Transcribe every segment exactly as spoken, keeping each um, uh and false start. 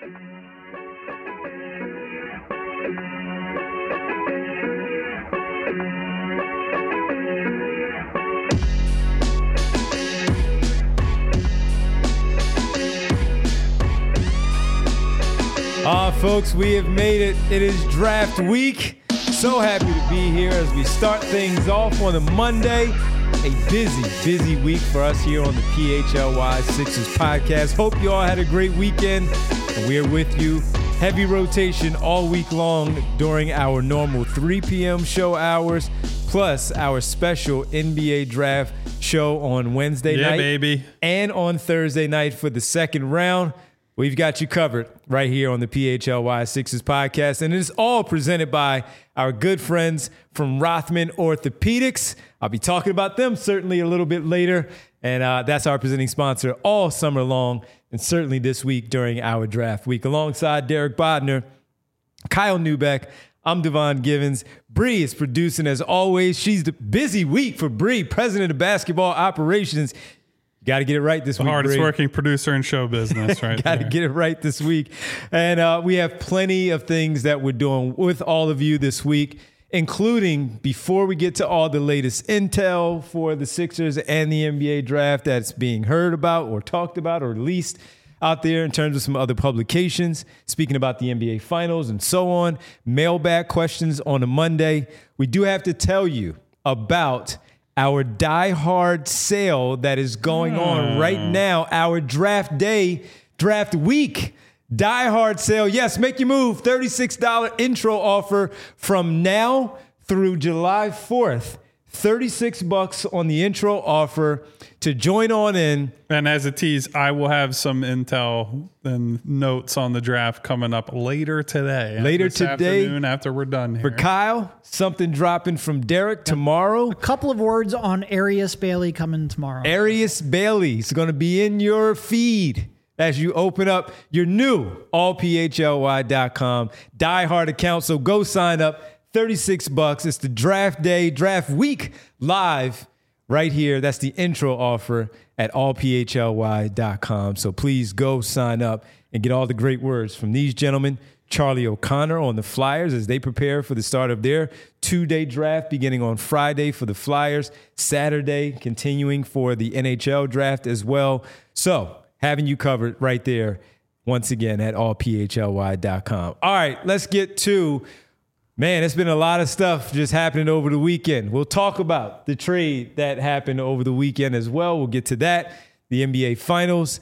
Ah, uh, folks, we have made it. It is draft week. So happy to be here as we start things off on a Monday. A busy, busy week for us here on the P H L Y Sixers podcast. Hope you all had a great weekend, and we are with you. Heavy rotation all week long during our normal three p.m. show hours, plus our special N B A draft show on Wednesday yeah, night. baby. And on Thursday night for the second round. We've got you covered right here on the P H L Y Sixers podcast, and it is all presented by our good friends from Rothman Orthopedics. I'll be talking about them certainly a little bit later, and uh, that's our presenting sponsor all summer long, and certainly this week during our draft week. Alongside Derek Bodner, Kyle Neubeck, I'm Devon Givens. Bree is producing as always. She's the busy week for Bree, president of basketball operations. Got to get it right this the week. The hardest Bree. working producer in show business, right? Got to get it right this week. And uh, we have plenty of things that we're doing with all of you this week, including before we get to all the latest intel for the Sixers and the N B A draft that's being heard about or talked about or released out there in terms of some other publications, speaking about the N B A finals and so on, mailbag questions on a Monday. We do have to tell you about our Die Hard sale that is going on right now, our draft day, draft week, Die Hard sale. Yes, make your move. thirty-six dollars intro offer from now through July fourth. thirty-six bucks on the intro offer to join on in. And as a tease, I will have some intel and notes on the draft coming up later today. Later this today. Afternoon after we're done here. For Kyle, something dropping from Derek tomorrow. A couple of words on Arius Bailey coming tomorrow. Arius Bailey is going to be in your feed as you open up your new all P H L Y dot com Die Hard account. So go sign up. thirty-six bucks. It's the draft day, draft week live right here. That's the intro offer at all P H L Y dot com. So please go sign up and get all the great words from these gentlemen. Charlie O'Connor on the Flyers as they prepare for the start of their two-day draft beginning on Friday for the Flyers, Saturday continuing for the N H L draft as well. So having you covered right there once again at all P H L Y dot com. All right, let's get to Man, it's been a lot of stuff just happening over the weekend. We'll talk about the trade that happened over the weekend as well. We'll get to that. The N B A Finals.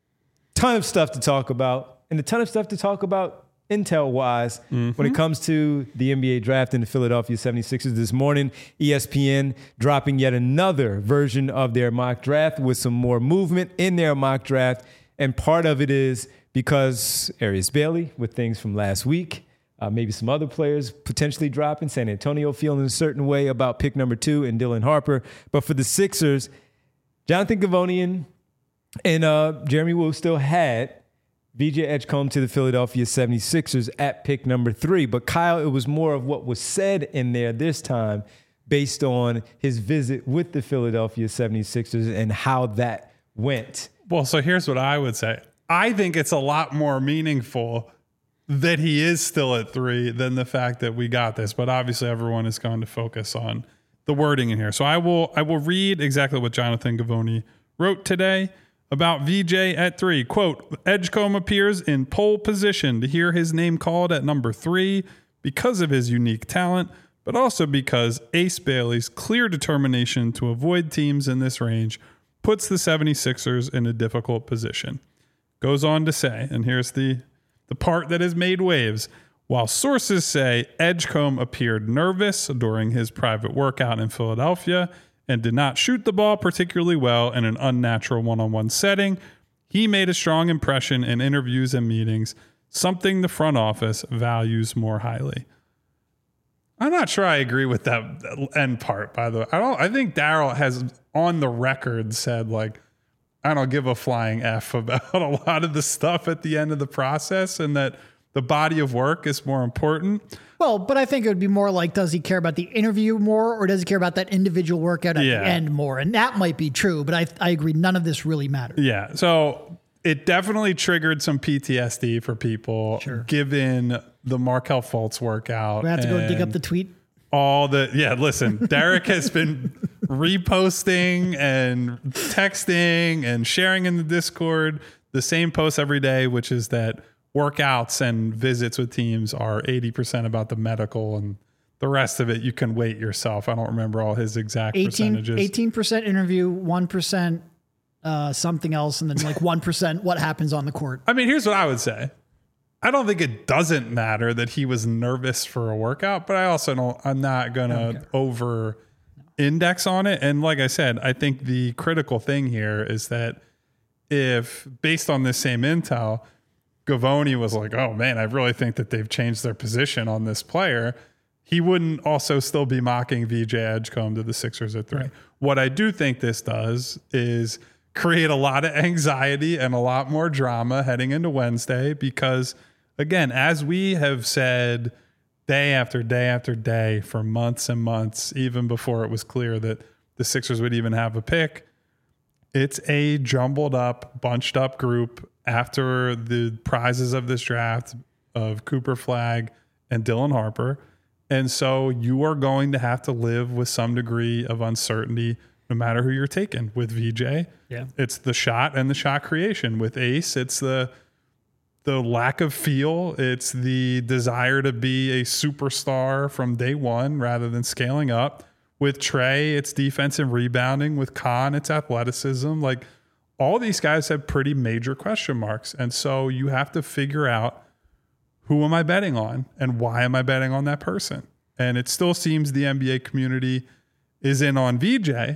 Ton of stuff to talk about. And a ton of stuff to talk about intel-wise mm-hmm. when it comes to the N B A draft and the Philadelphia seventy-sixers this morning. E S P N dropping yet another version of their mock draft with some more movement in their mock draft. And part of it is because Arius Bailey with things from last week. Uh, maybe some other players potentially dropping. San Antonio feeling a certain way about pick number two and Dylan Harper. But for the Sixers, Jonathan Givony and uh, Jeremy Wu still had V J Edgecombe to the Philadelphia seventy-sixers at pick number three. But Kyle, it was more of what was said in there this time based on his visit with the Philadelphia seventy-sixers and how that went. Well, so here's what I would say. I think it's a lot more meaningful that he is still at three than the fact that we got this. But obviously everyone is going to focus on the wording in here. So I will I will read exactly what Jonathan Givony wrote today about V J at three. Quote, Edgecombe appears in pole position to hear his name called at number three because of his unique talent, but also because Ace Bailey's clear determination to avoid teams in this range puts the seventy-sixers in a difficult position. Goes on to say, and here's the The part that has made waves. While sources say Edgecombe appeared nervous during his private workout in Philadelphia and did not shoot the ball particularly well in an unnatural one-on-one setting, he made a strong impression in interviews and meetings, something the front office values more highly. I'm not sure I agree with that end part, by the way. I don't. I think Daryl has on the record said, like, I don't give a flying F about a lot of the stuff at the end of the process and that the body of work is more important. Well, but I think it would be more like, does he care about the interview more or does he care about that individual workout at yeah. the end more? And that might be true, but I I agree. None of this really matters. Yeah. So it definitely triggered some P T S D for people, Sure. given the Markelle Fultz workout. We have to go dig and up the tweet. all the yeah. Listen, Derek has been reposting and texting and sharing in the Discord the same posts every day, which is that workouts and visits with teams are eighty percent about the medical, and the rest of it you can weight yourself. I don't remember all his exact percentages. eighteen percent interview, one percent uh, something else, and then like one percent what happens on the court. I mean, here's what I would say. I don't think it doesn't matter that he was nervous for a workout, but I also don't, I'm not going to over index on it. And like I said, I think the critical thing here is that if based on this same intel, Gavoni was like, oh man, I really think that they've changed their position on this player, he wouldn't also still be mocking V J Edgecombe to the Sixers at three. Right. What I do think this does is create a lot of anxiety and a lot more drama heading into Wednesday because, again, as we have said day after day after day for months and months, even before it was clear that the Sixers would even have a pick, it's a jumbled up, bunched up group after the prizes of this draft of Cooper Flagg and Dylan Harper. And so you are going to have to live with some degree of uncertainty no matter who you're taking. With V J, yeah, it's the shot and the shot creation. With Ace, it's the the lack of feel. It's the desire to be a superstar from day one rather than scaling up. With Trey, it's defensive rebounding. With Khan, it's athleticism. Like, all these guys have pretty major question marks. And so you have to figure out, who am I betting on and why am I betting on that person? And it still seems the N B A community is in on V J.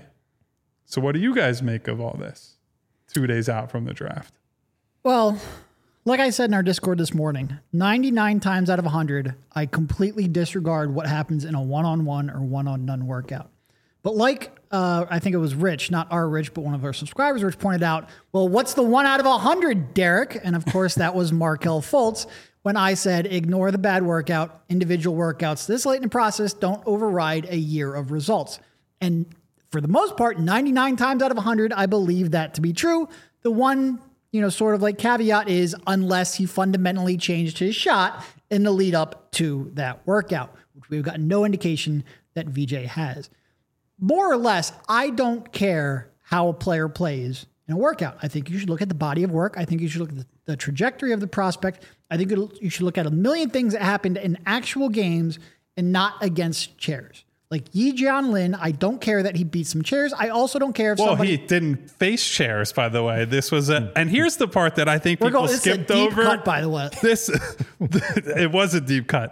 So what do you guys make of all this two days out from the draft? Well, like I said in our Discord this morning, ninety-nine times out of one hundred, I completely disregard what happens in a one-on-one or one-on-none workout. But like, uh, I think it was Rich, not our Rich, but one of our subscribers, Rich pointed out, well, what's the one out of one hundred, Derek? And of course, that was Markelle Fultz. When I said, ignore the bad workout, individual workouts this late in the process don't override a year of results. And for the most part, ninety-nine times out of one hundred, I believe that to be true. The one, you know, sort of like caveat is unless he fundamentally changed his shot in the lead up to that workout, which we've got no indication that V J has. More or less, I don't care how a player plays in a workout. I think you should look at the body of work. I think you should look at the, the trajectory of the prospect. I think it'll, you should look at a million things that happened in actual games and not against chairs. Like Yi Jian Lin, I don't care that he beat some chairs. I also don't care if well, somebody... he didn't face chairs, by the way. This was a... And here's the part that I think We're people going, skipped this is a deep over. cut, by the way. This, it was a deep cut.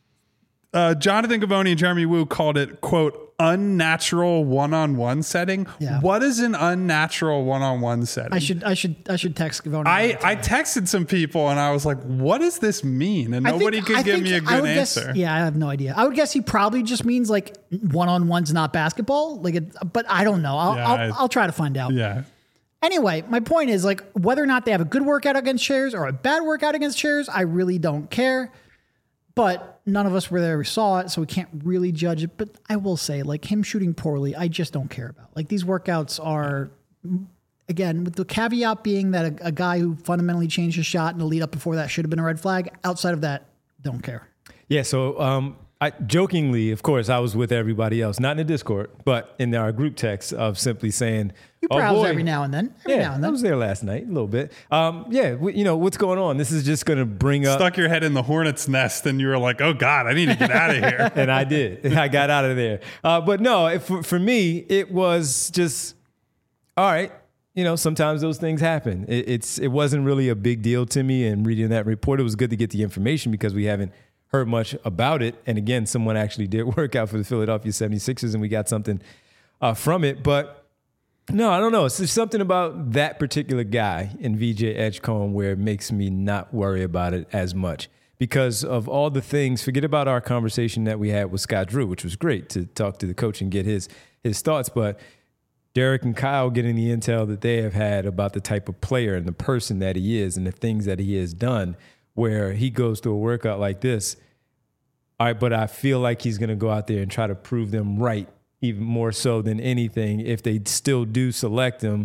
Uh, Jonathan Gavoni and Jeremy Wu called it, quote, unnatural one-on-one setting. Yeah. What is an unnatural one-on-one setting? I should I should I should text Gavoni. I, I texted some people and I was like, what does this mean? And I nobody think- could I give think me a I good would answer. Guess, yeah, I have no idea. I would guess he probably just means like one-on-one's not basketball. Like, it, but I don't know. I'll, Yeah, I'll, I- I'll try to find out. Yeah. Anyway, my point is like whether or not they have a good workout against chairs or a bad workout against chairs, I really don't care. But none of us were there, we saw it, so we can't really judge it. But I will say, like him shooting poorly, I just don't care about. Like these workouts are, again, with the caveat being that a, a guy who fundamentally changed his shot in the lead up before that should have been a red flag. Outside of that, don't care. Yeah, so um, I jokingly, of course, I was with everybody else, not in the Discord, but in our group text of simply saying, You oh, browse boy. every now and then. Every Yeah, now and I then. was there last night, a little bit. Um, yeah, we, you know, what's going on? This is just going to bring up... Stuck your head in the hornet's nest and you were like, oh God, I need to get out of here. And I did. I got out of there. Uh, but no, it, for, for me, it was just, all right, you know, sometimes those things happen. It, it's It wasn't really a big deal to me. And reading that report, it was good to get the information because we haven't heard much about it. And again, someone actually did work out for the Philadelphia seventy-sixers and we got something uh, from it. But no, I don't know. It's just something about that particular guy in V J Edgecombe where it makes me not worry about it as much because of all the things. Forget about our conversation that we had with Scott Drew, which was great to talk to the coach and get his his thoughts. But Derek and Kyle getting the intel that they have had about the type of player and the person that he is and the things that he has done, where he goes through a workout like this. All right, but I feel like he's going to go out there and try to prove them right, even more so than anything, if they still do select him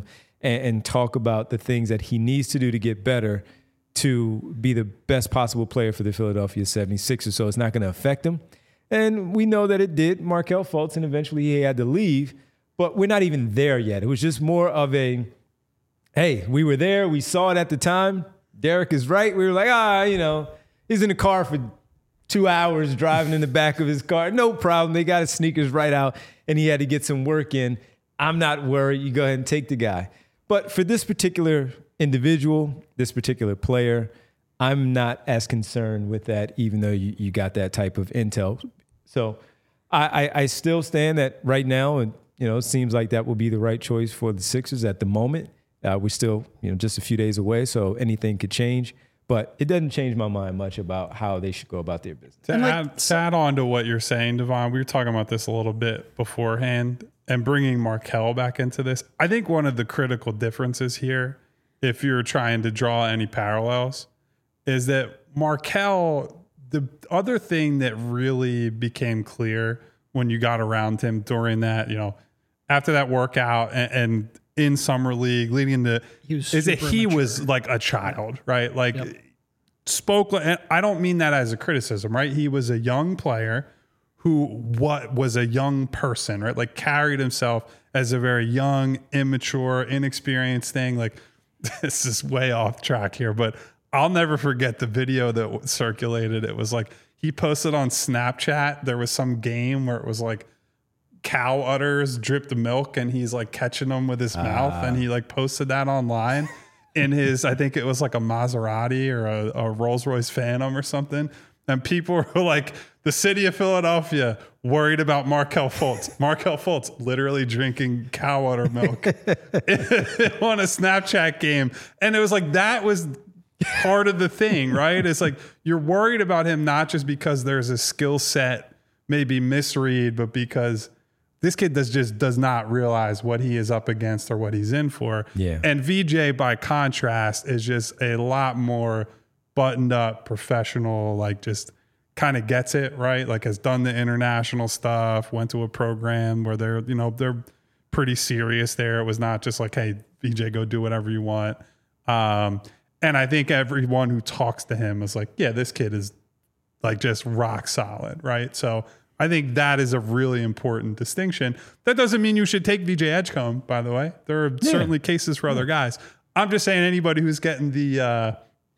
and, and talk about the things that he needs to do to get better to be the best possible player for the Philadelphia seventy-sixers. So it's not going to affect him. And we know that it did. Markelle Fultz, and eventually he had to leave. But we're not even there yet. It was just more of a, hey, we were there. We saw it at the time. Derek is right. We were like, ah, you know, he's in the car for two hours driving in the back of his car. No problem. They got his sneakers right out, and he had to get some work in. I'm not worried. You go ahead and take the guy. But for this particular individual, this particular player, I'm not as concerned with that, even though you, you got that type of intel. So I, I, I still stand that right now, and you know, it seems like that will be the right choice for the Sixers at the moment. Uh, we're still, you know, just a few days away, so anything could change. But it doesn't change my mind much about how they should go about their business. To, like, add, to add on to what you're saying, Devon, we were talking about this a little bit beforehand, and bringing Markelle back into this. I think one of the critical differences here, if you're trying to draw any parallels, is that Markelle, the other thing that really became clear when you got around him during that, you know, after that workout and, and in summer league leading into, is that he mature. was like a child, right? Like yep. spoke, and I don't mean that as a criticism, right? He was a young player who what was a young person, right? Like carried himself as a very young, immature, inexperienced thing. Like this is way off track here, but I'll never forget the video that circulated. It was like he posted on Snapchat. There was some game where it was like cow udders dripped milk and he's like catching them with his uh. mouth. And he like posted that online in his, I think it was like a Maserati or a, a Rolls Royce Phantom or something. And people were like, the city of Philadelphia worried about Markelle Fultz. Markelle Fultz literally drinking cow udder milk on a Snapchat game. And it was like, that was part of the thing, right? It's like, you're worried about him, not just because there's a skill set, maybe misread, but because this kid does just does not realize what he is up against or what he's in for. Yeah. And V J, by contrast, is just a lot more buttoned up, professional, like just kind of gets it, right? Like has done the international stuff, went to a program where they're, you know, they're pretty serious there. It was not just like, hey, V J, go do whatever you want. Um, and I think everyone who talks to him is like, yeah, this kid is like just rock solid, right? So I think that is a really important distinction. That doesn't mean you should take V J Edgecombe, by the way. There are yeah. certainly cases for other guys. I'm just saying anybody who's getting the uh,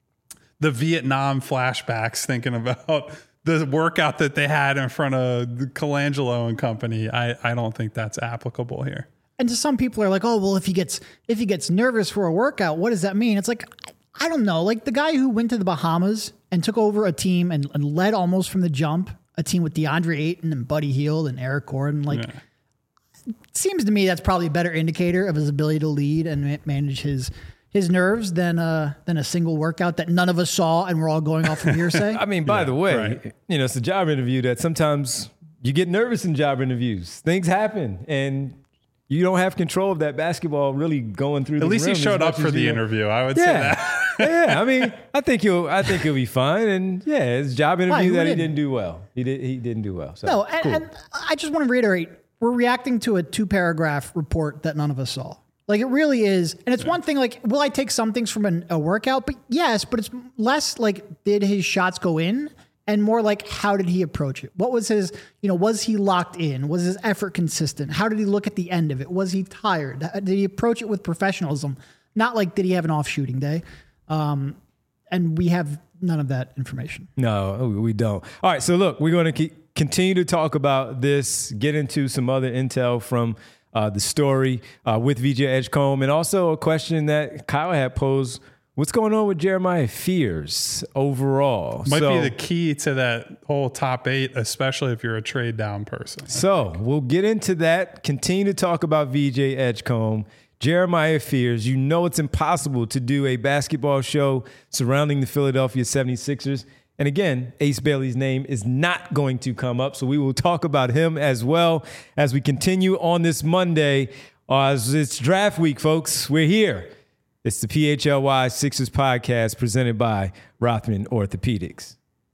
the Vietnam flashbacks thinking about the workout that they had in front of Colangelo and company, I, I don't think that's applicable here. And to some people are like, oh, well, if he gets if he gets nervous for a workout, what does that mean? It's like, I, I don't know. Like the guy who went to the Bahamas and took over a team and, and led almost from the jump, a team with DeAndre Ayton and Buddy Hield and Eric Gordon. Like, yeah. it seems to me that's probably a better indicator of his ability to lead and manage his his nerves than uh than a single workout that none of us saw and we're all going off from hearsay. I mean, by yeah, the way, right. you know, it's a job interview that sometimes you get nervous in job interviews. Things happen, and you don't have control of that basketball really going through. At the least he showed up for the you. interview. I would yeah. say that. yeah, I mean, I think he'll. I think he'll be fine, and yeah, it's a job interview Why, that didn't? he didn't do well. He did. He didn't do well. So, no, and, cool. and I just want to reiterate: we're reacting to a two-paragraph report that none of us saw. Like it really is, and it's yeah. one thing. Like, will I take some things from an, a workout? But yes, but it's less like did his shots go in, and more like how did he approach it? What was his? You know, was he locked in? Was his effort consistent? How did he look at the end of it? Was he tired? Did he approach it with professionalism? Not like did he have an off shooting day? Um, and we have none of that information. No, we don't. All right, so look, we're going to keep, continue to talk about this, get into some other intel from uh, the story uh, with V J Edgecombe, and also a question that Kyle had posed. What's going on with Jeremiah Fears overall? Might so, be the key to that whole top eight, especially if you're a trade down person. So we'll get into that, continue to talk about V J Edgecombe. Jeremiah Fears, you know it's impossible to do a basketball show surrounding the Philadelphia seventy-sixers. And again, Ace Bailey's name is not going to come up, so we will talk about him as well as we continue on this Monday. Uh, it's draft week, folks. We're here. It's the P H L Y Sixers podcast presented by Rothman Orthopedics.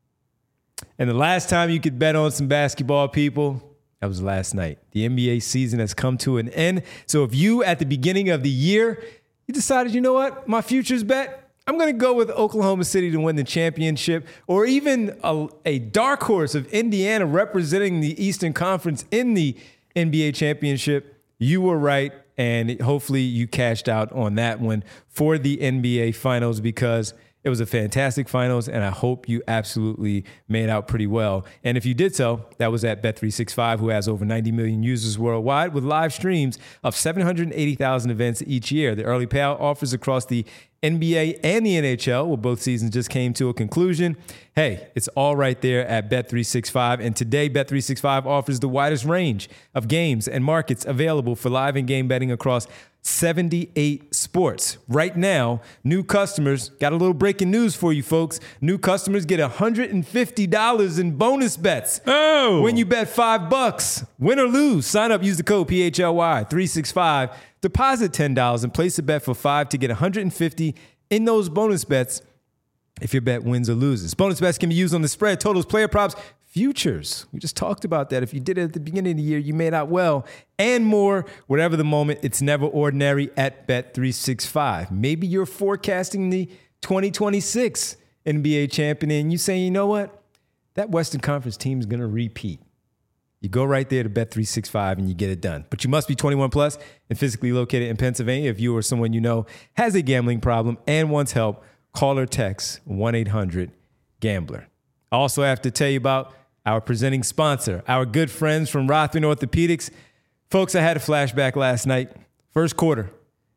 And the last time you could bet on some basketball, people, that was last night. The N B A season has come to an end. So if you, at the beginning of the year, you decided, you know what, my future's bet, I'm going to go with Oklahoma City to win the championship, or even a, a dark horse of Indiana representing the Eastern Conference in the N B A championship. You were right, and hopefully you cashed out on that one for the N B A Finals, because it was a fantastic finals, and I hope you absolutely made out pretty well. And if you did so, that was at Bet three sixty-five, who has over ninety million users worldwide with live streams of seven hundred eighty thousand events each year. The early payout offers across the N B A and the N H L, where both seasons just came to a conclusion. Hey, it's all right there at Bet three sixty-five. And today, Bet three sixty-five offers the widest range of games and markets available for live and game betting across seventy-eight sports. Right now, new customers, got a little breaking news for you folks. New customers get one hundred fifty dollars in bonus bets. Oh! When you bet five bucks, win or lose, sign up, use the code P H L Y three sixty-five, deposit ten dollars and place a bet for five to get one hundred fifty dollars in those bonus bets if your bet wins or loses. Bonus bets can be used on the spread, totals, player props, futures. We just talked about that. If you did it at the beginning of the year, you made out well, and more. Whatever the moment, it's never ordinary at Bet three sixty-five. Maybe you're forecasting the twenty twenty-six N B A champion, and you saying, you know what? That Western Conference team is going to repeat. You go right there to Bet three sixty-five and you get it done. But you must be twenty-one plus and physically located in Pennsylvania. If you or someone you know has a gambling problem and wants help, call or text one eight hundred gambler. I also have to tell you about our presenting sponsor, our good friends from Rothman Orthopedics. Folks, I had a flashback last night. First quarter,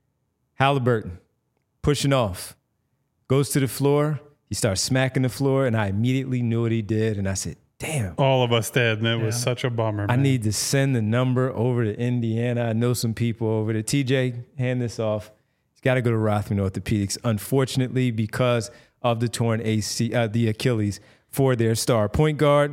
Halliburton pushing off, goes to the floor. He starts smacking the floor, and I immediately knew what he did. And I said, damn. All of us did, and it yeah. was such a bummer, man. I need to send the number over to Indiana. I know some people over there. T J, hand this off. He's got to go to Rothman Orthopedics, unfortunately, because of the torn A C, uh, the Achilles for their star point guard.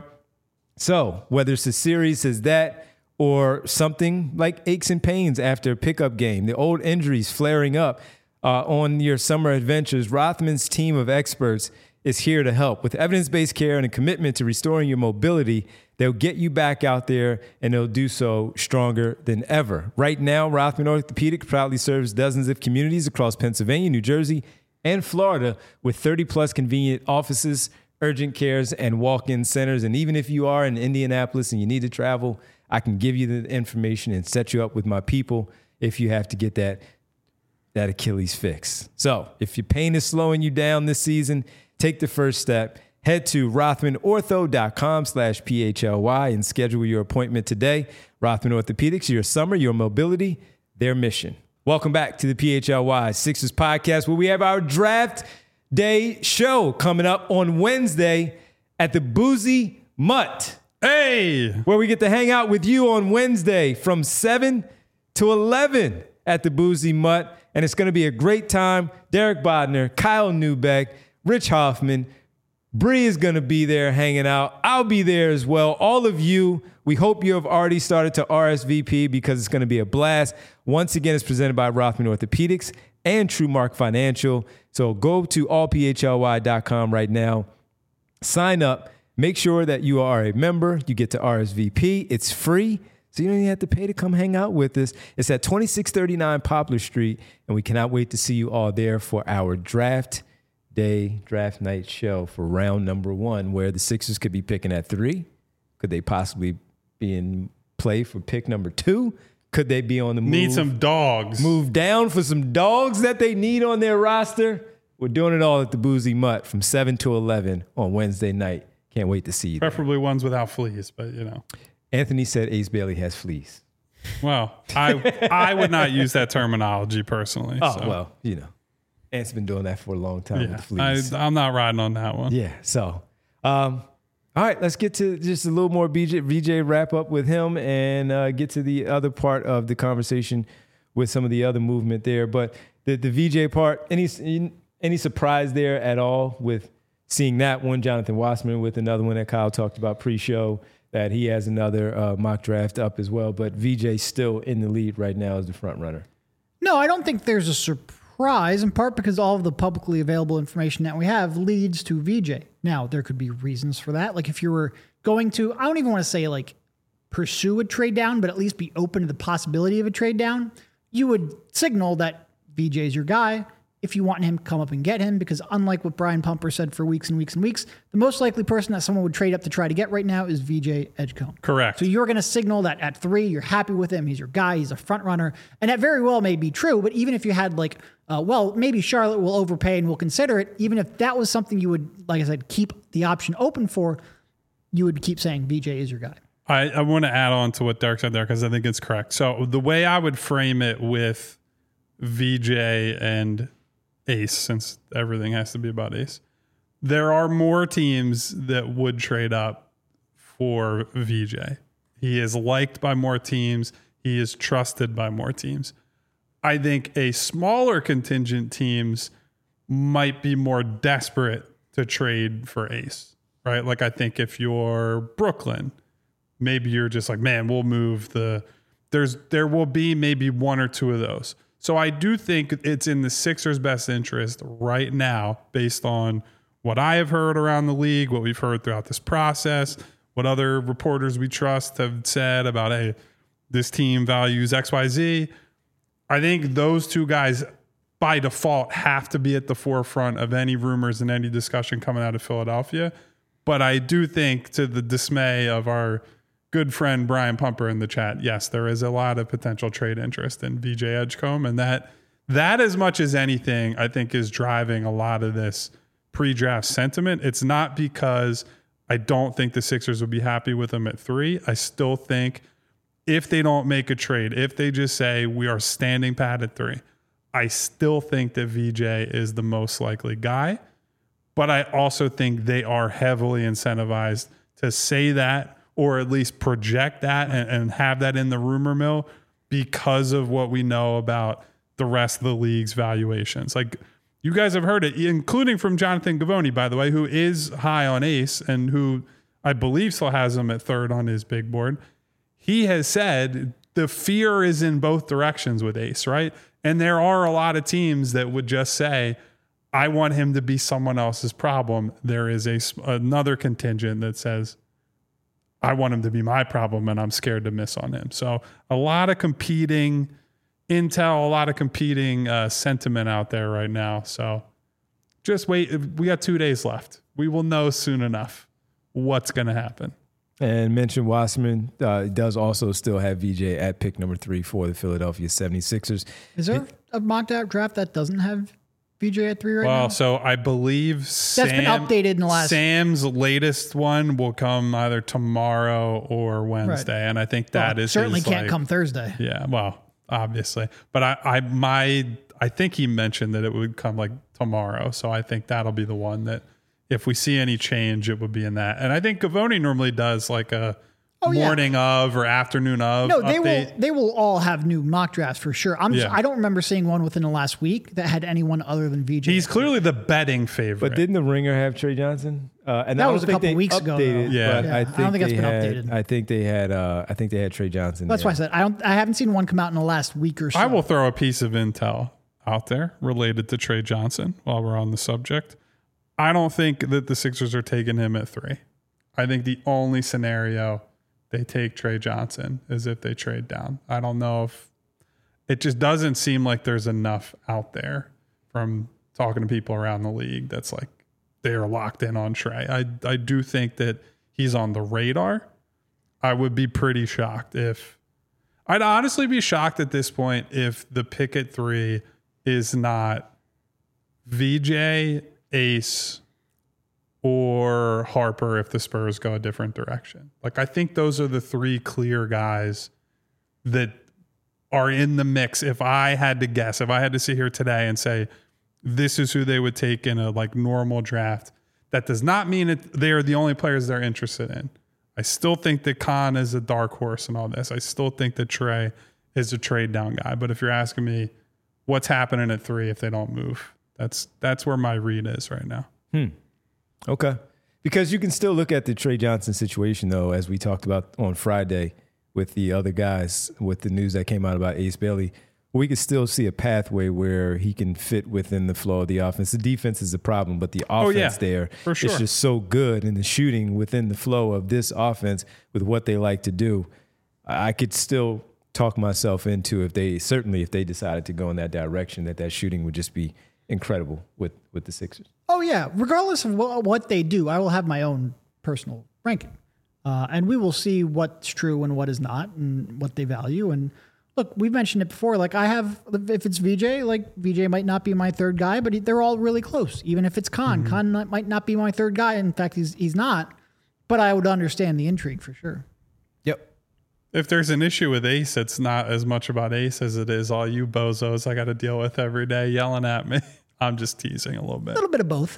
So whether it's as serious as that or something like aches and pains after a pickup game, the old injuries flaring up uh, on your summer adventures, Rothman's team of experts is here to help. With evidence-based care and a commitment to restoring your mobility, they'll get you back out there, and they'll do so stronger than ever. Right now, Rothman Orthopedics proudly serves dozens of communities across Pennsylvania, New Jersey, and Florida with thirty plus convenient offices, urgent cares, and walk-in centers. And even if you are in Indianapolis and you need to travel, I can give you the information and set you up with my people if you have to get that, that Achilles fixed. So if your pain is slowing you down this season, take the first step. Head to rothmanortho.com slash PHLY and schedule your appointment today. Rothman Orthopedics, your summer, your mobility, their mission. Welcome back to the P H L Y Sixers podcast, where we have our draft day show coming up on Wednesday at the Boozy Mutt. Hey! Where we get to hang out with you on Wednesday from seven to eleven at the Boozy Mutt. And it's going to be a great time. Derek Bodner, Kyle Neubeck, Rich Hoffman, Bree is going to be there hanging out. I'll be there as well. All of you, we hope you have already started to R S V P because it's going to be a blast. Once again, it's presented by Rothman Orthopedics and TrueMark Financial. So go to all P H L Y dot com right now. Sign up. Make sure that you are a member. You get to R S V P. It's free, so you don't even have to pay to come hang out with us. It's at twenty-six thirty-nine Poplar Street, and we cannot wait to see you all there for our draft day, draft night show for round number one, where the Sixers could be picking at three. Could they possibly be in play for pick number two? Could they be on the move? Need some dogs. Move down for some dogs that they need on their roster. We're doing it all at the Boozy Mutt from seven to eleven on Wednesday night. Can't wait to see you. Preferably there. Ones without fleas, but you know. Anthony said Ace Bailey has fleas. Well, I I would not use that terminology personally. Oh, so. well, you know. Ant's been doing that for a long time Yeah, with the fleas. I, I'm not riding on that one. Yeah, so. Um, all right, let's get to just a little more B J, V J wrap up with him and uh, get to the other part of the conversation with some of the other movement there. But the, the V J part, any any surprise there at all with seeing that one, Jonathan Wassman with another one that Kyle talked about pre-show, that he has another uh, mock draft up as well. But V J still in the lead right now as the front runner. No, I don't think there's a surprise, in part because all of the publicly available information that we have leads to V J. Now, there could be reasons for that. Like if you were going to, I don't even want to say like pursue a trade down, but at least be open to the possibility of a trade down, you would signal that V J's your guy. If you want him, come up and get him, because unlike what Brian Pumper said for weeks and weeks and weeks, the most likely person that someone would trade up to try to get right now is V J Edgecombe. Correct. So you're going to signal that at three, you're happy with him. He's your guy. He's a front runner. And that very well may be true. But even if you had like, uh, well, maybe Charlotte will overpay and will consider it. Even if that was something you would, like I said, keep the option open for, you would keep saying V J is your guy. I, I want to add on to what Derek said there because I think it's correct. So the way I would frame it with V J and Ace, since everything has to be about Ace, there are more teams that would trade up for V J. He is liked by more teams. He is trusted by more teams. I think a smaller contingent teams might be more desperate to trade for Ace, right? Like I think if you're Brooklyn, maybe you're just like, man, we'll move the, there's, there will be maybe one or two of those. So I do think it's in the Sixers' best interest right now, based on what I have heard around the league, what we've heard throughout this process, what other reporters we trust have said about, hey, this team values X Y Z. I think those two guys by default have to be at the forefront of any rumors and any discussion coming out of Philadelphia. But I do think, to the dismay of our good friend Brian Pumper in the chat, yes, there is a lot of potential trade interest in V J Edgecombe, and that that as much as anything, I think, is driving a lot of this pre-draft sentiment. It's not because I don't think the Sixers would be happy with him at three. I still think if they don't make a trade, if they just say we are standing pat at three, I still think that V J is the most likely guy. But I also think they are heavily incentivized to say that, or at least project that and, and have that in the rumor mill, because of what we know about the rest of the league's valuations. Like, you guys have heard it, including from Jonathan Givony, by the way, who is high on Ace and who I believe still has him at third on his big board. He has said the fear is in both directions with Ace, right? And there are a lot of teams that would just say, I want him to be someone else's problem. There is a, another contingent that says, I want him to be my problem, and I'm scared to miss on him. So a lot of competing intel, a lot of competing uh, sentiment out there right now. So just wait. We got two days left. We will know soon enough what's going to happen. And mention Wasserman uh, does also still have V J at pick number three for the Philadelphia seventy-sixers. Is there a mock draft that doesn't have V J at three right well, now? Well, so I believe that's Sam, been updated in the last. Sam's latest one will come either tomorrow or Wednesday, right. And I think that well, is certainly his, can't like, come Thursday. Yeah, well, obviously, but I, I, my, I think he mentioned that it would come like tomorrow, so I think that'll be the one that, if we see any change, it would be in that. And I think Gavoni normally does like a oh, morning yeah. of or afternoon of. No, they update. will. They will all have new mock drafts for sure. I'm. Yeah. Just, I don't remember seeing one within the last week that had anyone other than V J. He's clearly the betting favorite. But didn't the Ringer have Trey Johnson? Uh, and that I was a think couple they weeks updated, ago. Yeah, yeah. I, think I don't think that's been had, updated. I think they had. Uh, I think they had Trey Johnson. That's there. why I said I don't. I haven't seen one come out in the last week or so. I will throw a piece of intel out there related to Trey Johnson while we're on the subject. I don't think that the Sixers are taking him at three. I think the only scenario they take Trey Johnson is if they trade down. I don't know if it just doesn't seem like there's enough out there from talking to people around the league that's like they're locked in on Trey. I I do think that he's on the radar. I would be pretty shocked if I'd honestly be shocked at this point if the pick at three is not V J, Ace, or Harper if the Spurs go a different direction. Like, I think those are the three clear guys that are in the mix. If I had to guess, if I had to sit here today and say, this is who they would take in a like normal draft, that does not mean that they are the only players they're interested in. I still think that Khan is a dark horse in all this. I still think that Trey is a trade down guy. But if you're asking me what's happening at three if they don't move, That's that's where my read is right now. Hmm. Okay. Because you can still look at the Trey Johnson situation, though, as we talked about on Friday with the other guys, with the news that came out about Ace Bailey. We could still see a pathway where he can fit within the flow of the offense. The defense is a problem, but the offense oh, yeah, there for sure. is just so good, and the shooting within the flow of this offense with what they like to do. I could still talk myself into if they certainly if they decided to go in that direction, that that shooting would just be incredible with with the Sixers. Oh yeah, regardless of what, what they do, I will have my own personal ranking, uh, and we will see what's true and what is not, and what they value. And look, we've mentioned it before. Like I have, if it's V J, like V J might not be my third guy, but they're all really close. Even if it's Khan, mm-hmm. Khan not, might not be my third guy. In fact, he's he's not. But I would understand the intrigue for sure. Yep. If there's an issue with Ace, it's not as much about Ace as it is all you bozos I got to deal with every day yelling at me. I'm just teasing a little bit. A little bit of both.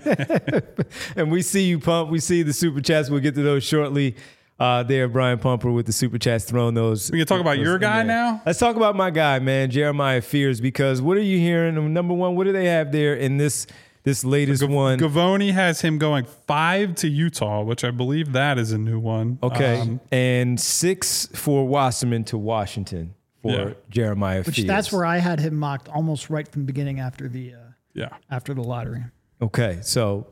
And we see you, Pump. We see the super chats. We'll get to those shortly. Uh, there, Brian Pumper with the super chats throwing those. We can talk about your guy now? Let's talk about my guy, man, Jeremiah Fears, because what are you hearing? Number one, what do they have there in this this latest G- one? Gavoni has him going five to Utah, which I believe that is a new one. Okay. Um, and six for Wasserman to Washington for Yeah. Jeremiah Which Fears. that's where I had him mocked almost right from the beginning after the uh, yeah. after the lottery. Okay, so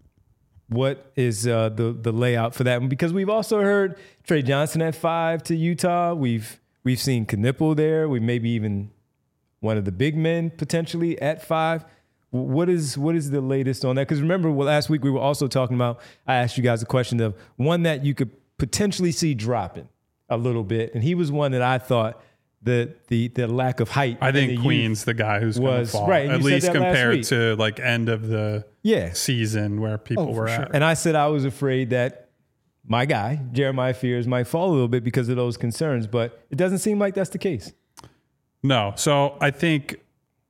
what is uh, the the layout for that one? Because we've also heard Trey Johnson at five to Utah. We've we've seen Knipple there. We maybe even one of the big men potentially at five. What is what is the latest on that? Because remember, well, last week we were also talking about. I asked you guys a question of one that you could potentially see dropping a little bit, and he was one that I thought the the the lack of height. I in think the Queen's the guy who's going to was- fall. right, and At you said least that last compared week. to like end of the Yeah. season where people Oh, for were sure. at. And I said I was afraid that my guy, Jeremiah Fears, might fall a little bit because of those concerns, but it doesn't seem like that's the case. No. So I think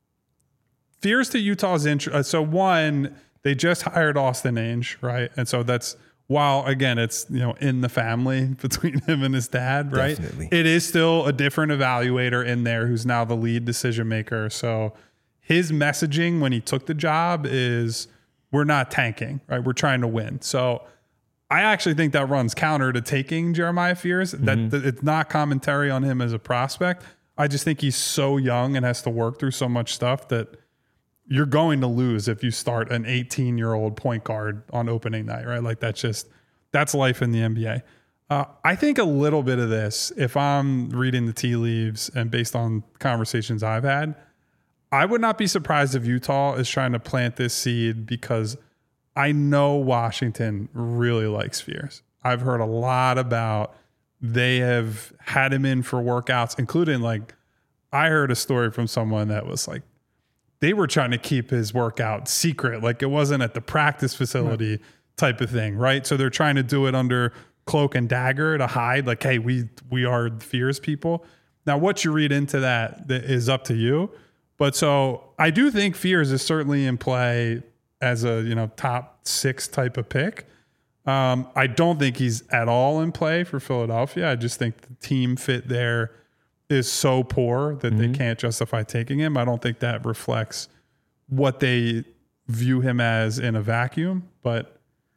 Fears to Utah's intro. Uh, so one, they just hired Austin Ainge, right? And so that's while again it's you know in the family between him and his dad, right? Definitely. It is still a different evaluator in there who's now the lead decision maker. So his messaging when he took the job is we're not tanking, right? We're trying to win. So I actually think that runs counter to taking Jeremiah Fears. That, that it's not commentary on him as a prospect. I just think he's so young and has to work through so much stuff that you're going to lose if you start an eighteen year old point guard on opening night, right? Like that's just, that's life in the N B A. Uh, I think a little bit of this, if I'm reading the tea leaves and based on conversations I've had, I would not be surprised if Utah is trying to plant this seed because I know Washington really likes Fears. I've heard a lot about they have had him in for workouts, including like I heard a story from someone that was like they were trying to keep his workout secret. Like it wasn't at the practice facility right. type of thing, right? So they're trying to do it under cloak and dagger to hide like, hey, we we are Fears people. Now, what you read into that, that is up to you. But so I do think Fears is certainly in play as a you know top six type of pick. Um, I don't think he's at all in play for Philadelphia. I just think the team fit there is so poor that mm-hmm. they can't justify taking him. I don't think that reflects what they view him as in a vacuum. But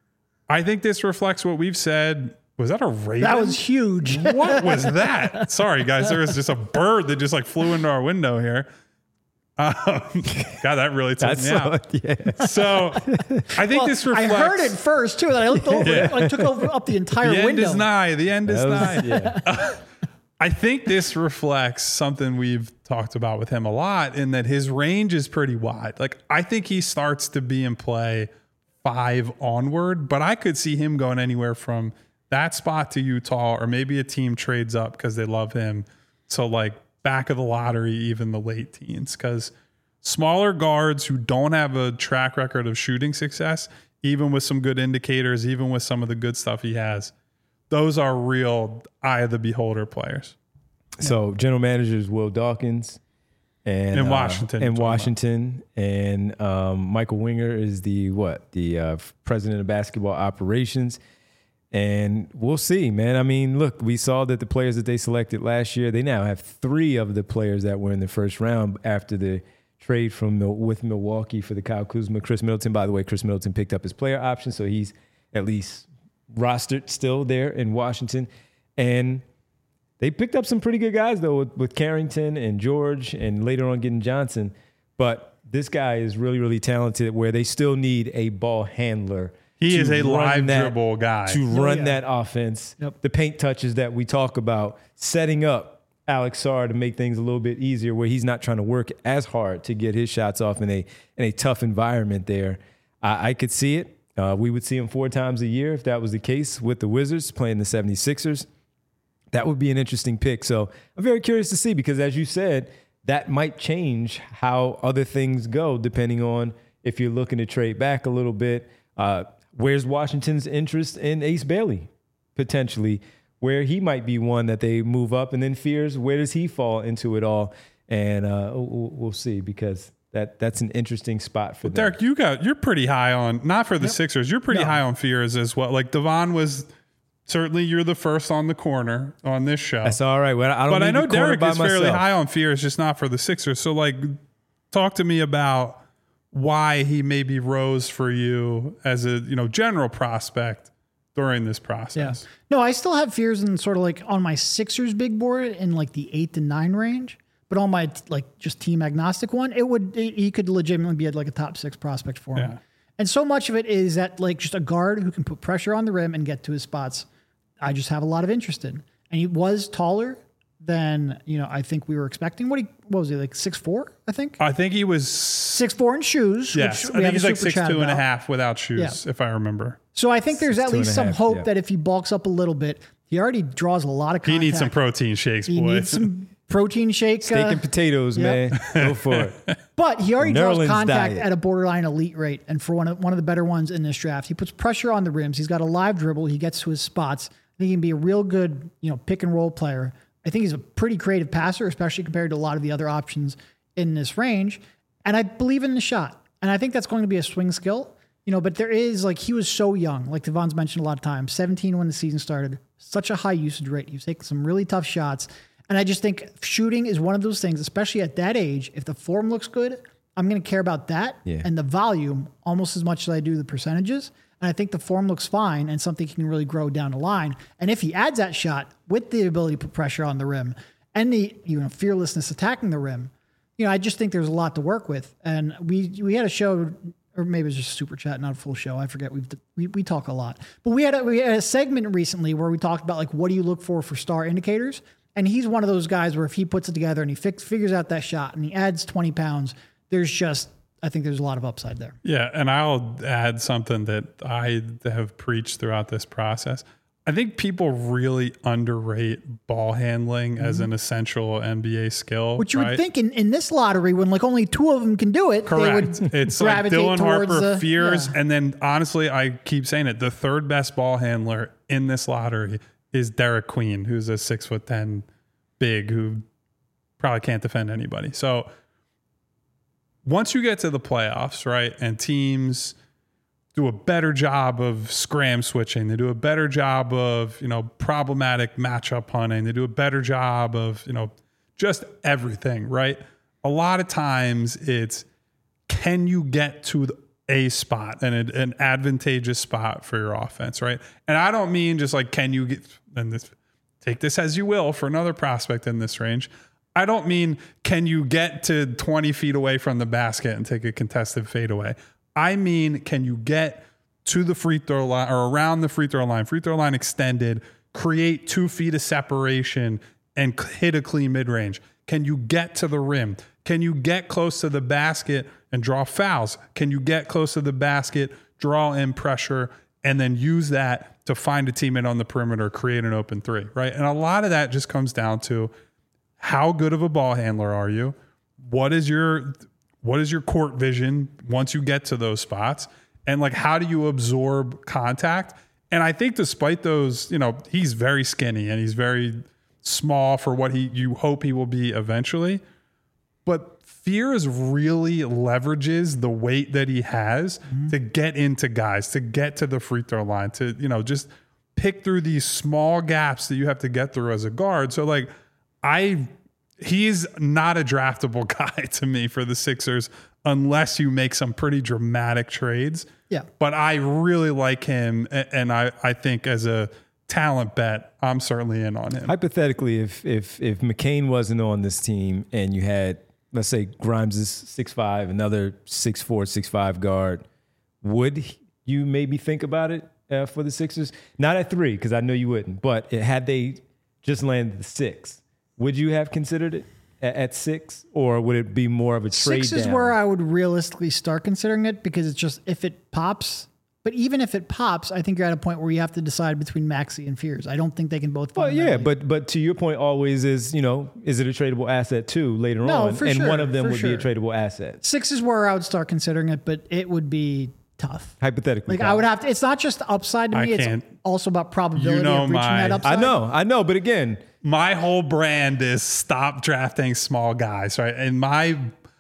I think this reflects what we've said. Was that a raven? That was huge. What was that? Sorry, guys. There was just a bird that just like flew into our window here. Um, God, that really took That's me out. So, yeah. So I think Well, this reflects. I heard it first too, and I looked over, Yeah. like took over up the entire the end window. is nigh. The end is That nigh. was- yeah. I think this reflects something we've talked about with him a lot in that his range is pretty wide. Like I think he starts to be in play five onward, but I could see him going anywhere from that spot to Utah, or maybe a team trades up because they love him. So like back of the lottery, even the late teens, because smaller guards who don't have a track record of shooting success, even with some good indicators, even with some of the good stuff he has, those are real eye of the beholder players. So general manager is Will Dawkins, and In uh, Washington, in you're talking Washington, and um, Michael Winger is the what the uh, president of basketball operations. And we'll see, man. I mean, look, we saw that the players that they selected last year, they now have three of the players that were in the first round after the trade from Mil- with Milwaukee for the Kyle Kuzma. Chris Middleton, by the way, Chris Middleton picked up his player option, so he's at least rostered still there in Washington. And they picked up some pretty good guys, though, with, with Carrington and George, and later on getting Johnson. But this guy is really, really talented where they still need a ball handler. He to is a run live that- dribble guy. To Oh, run yeah. that offense, Yep. the paint touches that we talk about, setting up Alex Sarr to make things a little bit easier, where he's not trying to work as hard to get his shots off in a in a tough environment there. I, I could see it. Uh, we would see him four times a year if that was the case with the Wizards playing the seventy-sixers. That would be an interesting pick. So I'm very curious to see, because as you said, that might change how other things go depending on if you're looking to trade back a little bit. Uh, where's Washington's interest in Ace Bailey potentially, where he might be one that they move up, and then Fears, where does he fall into it all? And uh, we'll, we'll see, because that that's an interesting spot for well, them. Derek, you got you're pretty high on, not for the Yep. Sixers, you're pretty No. high on Fears as well. Like Devon was certainly, you're the first on the corner on this show. That's all right. Well, I don't But need I know the corner Derek by is fairly myself. high on Fears, just not for the Sixers. So like, talk to me about why he maybe rose for you as a, you know, general prospect during this process. Yeah. No, I still have Fears in sort of like on my Sixers big board in like the eight to nine range, but on my like just team agnostic one, it would, it, he could legitimately be at like a top six prospect for him. Yeah. And so much of it is that like just a guard who can put pressure on the rim and get to his spots. I just have a lot of interest in. And he was taller than, you know, I think we were expecting. What he, what was he, like six four, I think? I think he was, six four in shoes. yes, which I we think have he's a like super six chat two and a about. half without shoes, Yeah. if I remember. So I think there's Six, at two and least a some half, hope yeah. that if he bulks up a little bit, he already draws a lot of He contact. needs some protein shakes, He boy. needs some protein shake. Steak uh, and potatoes, yep. man. Go for it. But he already draws Nerlens contact diet. at a borderline elite rate, and for one of one of the better ones in this draft, he puts pressure on the rims. He's got a live dribble. He gets to his spots. I think he can be a real good, you know, pick and roll player. I think he's a pretty creative passer, especially compared to a lot of the other options in this range. And I believe in the shot, and I think that's going to be a swing skill. You know, but there is like he was so young, like Devon's mentioned a lot of times, seventeen when the season started, such a high usage rate. He was taking some really tough shots. And I just think shooting is one of those things, especially at that age. If the form looks good, I'm going to care about that Yeah. and the volume almost as much as I do the percentages. And I think the form looks fine and something he can really grow down the line. And if he adds that shot with the ability to put pressure on the rim and the, you know, fearlessness attacking the rim, you know, I just think there's a lot to work with. And we we had a show, or maybe it was just a super chat, not a full show. I forget. We've we, we talk a lot, but we had a, we had a segment recently where we talked about like what do you look for for star indicators, and he's one of those guys where if he puts it together and he fix, figures out that shot and he adds twenty pounds, there's just I think there's a lot of upside there. Yeah, and I'll add something that I have preached throughout this process. I think people really underrate ball handling as an essential N B A skill. Which you right? would think in, in this lottery, when like only two of them can do it, Correct. they would It's like gravitate Dylan towards Harper, the, Fears, yeah. and then honestly, I keep saying it. The third best ball handler in this lottery is Derek Queen, who's a six foot ten big who probably can't defend anybody. So once you get to the playoffs, right, and teams do a better job of scram switching, they do a better job of, you know, problematic matchup hunting, they do a better job of, you know, just everything, right? A lot of times it's, can you get to the, a spot and an, an advantageous spot for your offense, right? And I don't mean just like, can you get, and this, take this as you will for another prospect in this range. I don't mean, can you get to twenty feet away from the basket and take a contested fadeaway? I mean, can you get to the free throw line or around the free throw line, free throw line extended, create two feet of separation and hit a clean mid-range? Can you get to the rim? Can you get close to the basket and draw fouls? Can you get close to the basket, draw in pressure, and then use that to find a teammate on the perimeter, create an open three, right? And a lot of that just comes down to how good of a ball handler are you? What is your what is your court vision once you get to those spots? And like, how do you absorb contact? And I think despite those, you know, he's very skinny and he's very small for what he you hope he will be eventually. But Fears really leverages the weight that he has mm-hmm. to get into guys, to get to the free throw line, to, you know, just pick through these small gaps that you have to get through as a guard. So like, I, he's not a draftable guy to me for the Sixers unless you make some pretty dramatic trades. Yeah. But I really like him. And I, I think as a talent bet, I'm certainly in on him. Hypothetically, if, if, if McCain wasn't on this team and you had, let's say Grimes is six five, another six four, six five guard, would you maybe think about it uh, for the Sixers? Not at three, because I know you wouldn't, but it, had they just landed the six, would you have considered it at, at six, or would it be more of a trade Six is down? where I would realistically start considering it, because it's just if it pops. But even if it pops, I think you're at a point where you have to decide between Maxey and Fears. I don't think they can both. Well, yeah, fundamentally- but but to your point, always is you know, is it a tradable asset too later No, on? for and sure, one of them for would sure. be a tradable asset. Six is where I would start considering it, but it would be tough. Hypothetically, Like Kyle. I would have to. It's not just the upside to I me. It's can't- also about probability You know of reaching my- that upside. I know, I know, but again, My whole brand is stop drafting small guys, right? And my,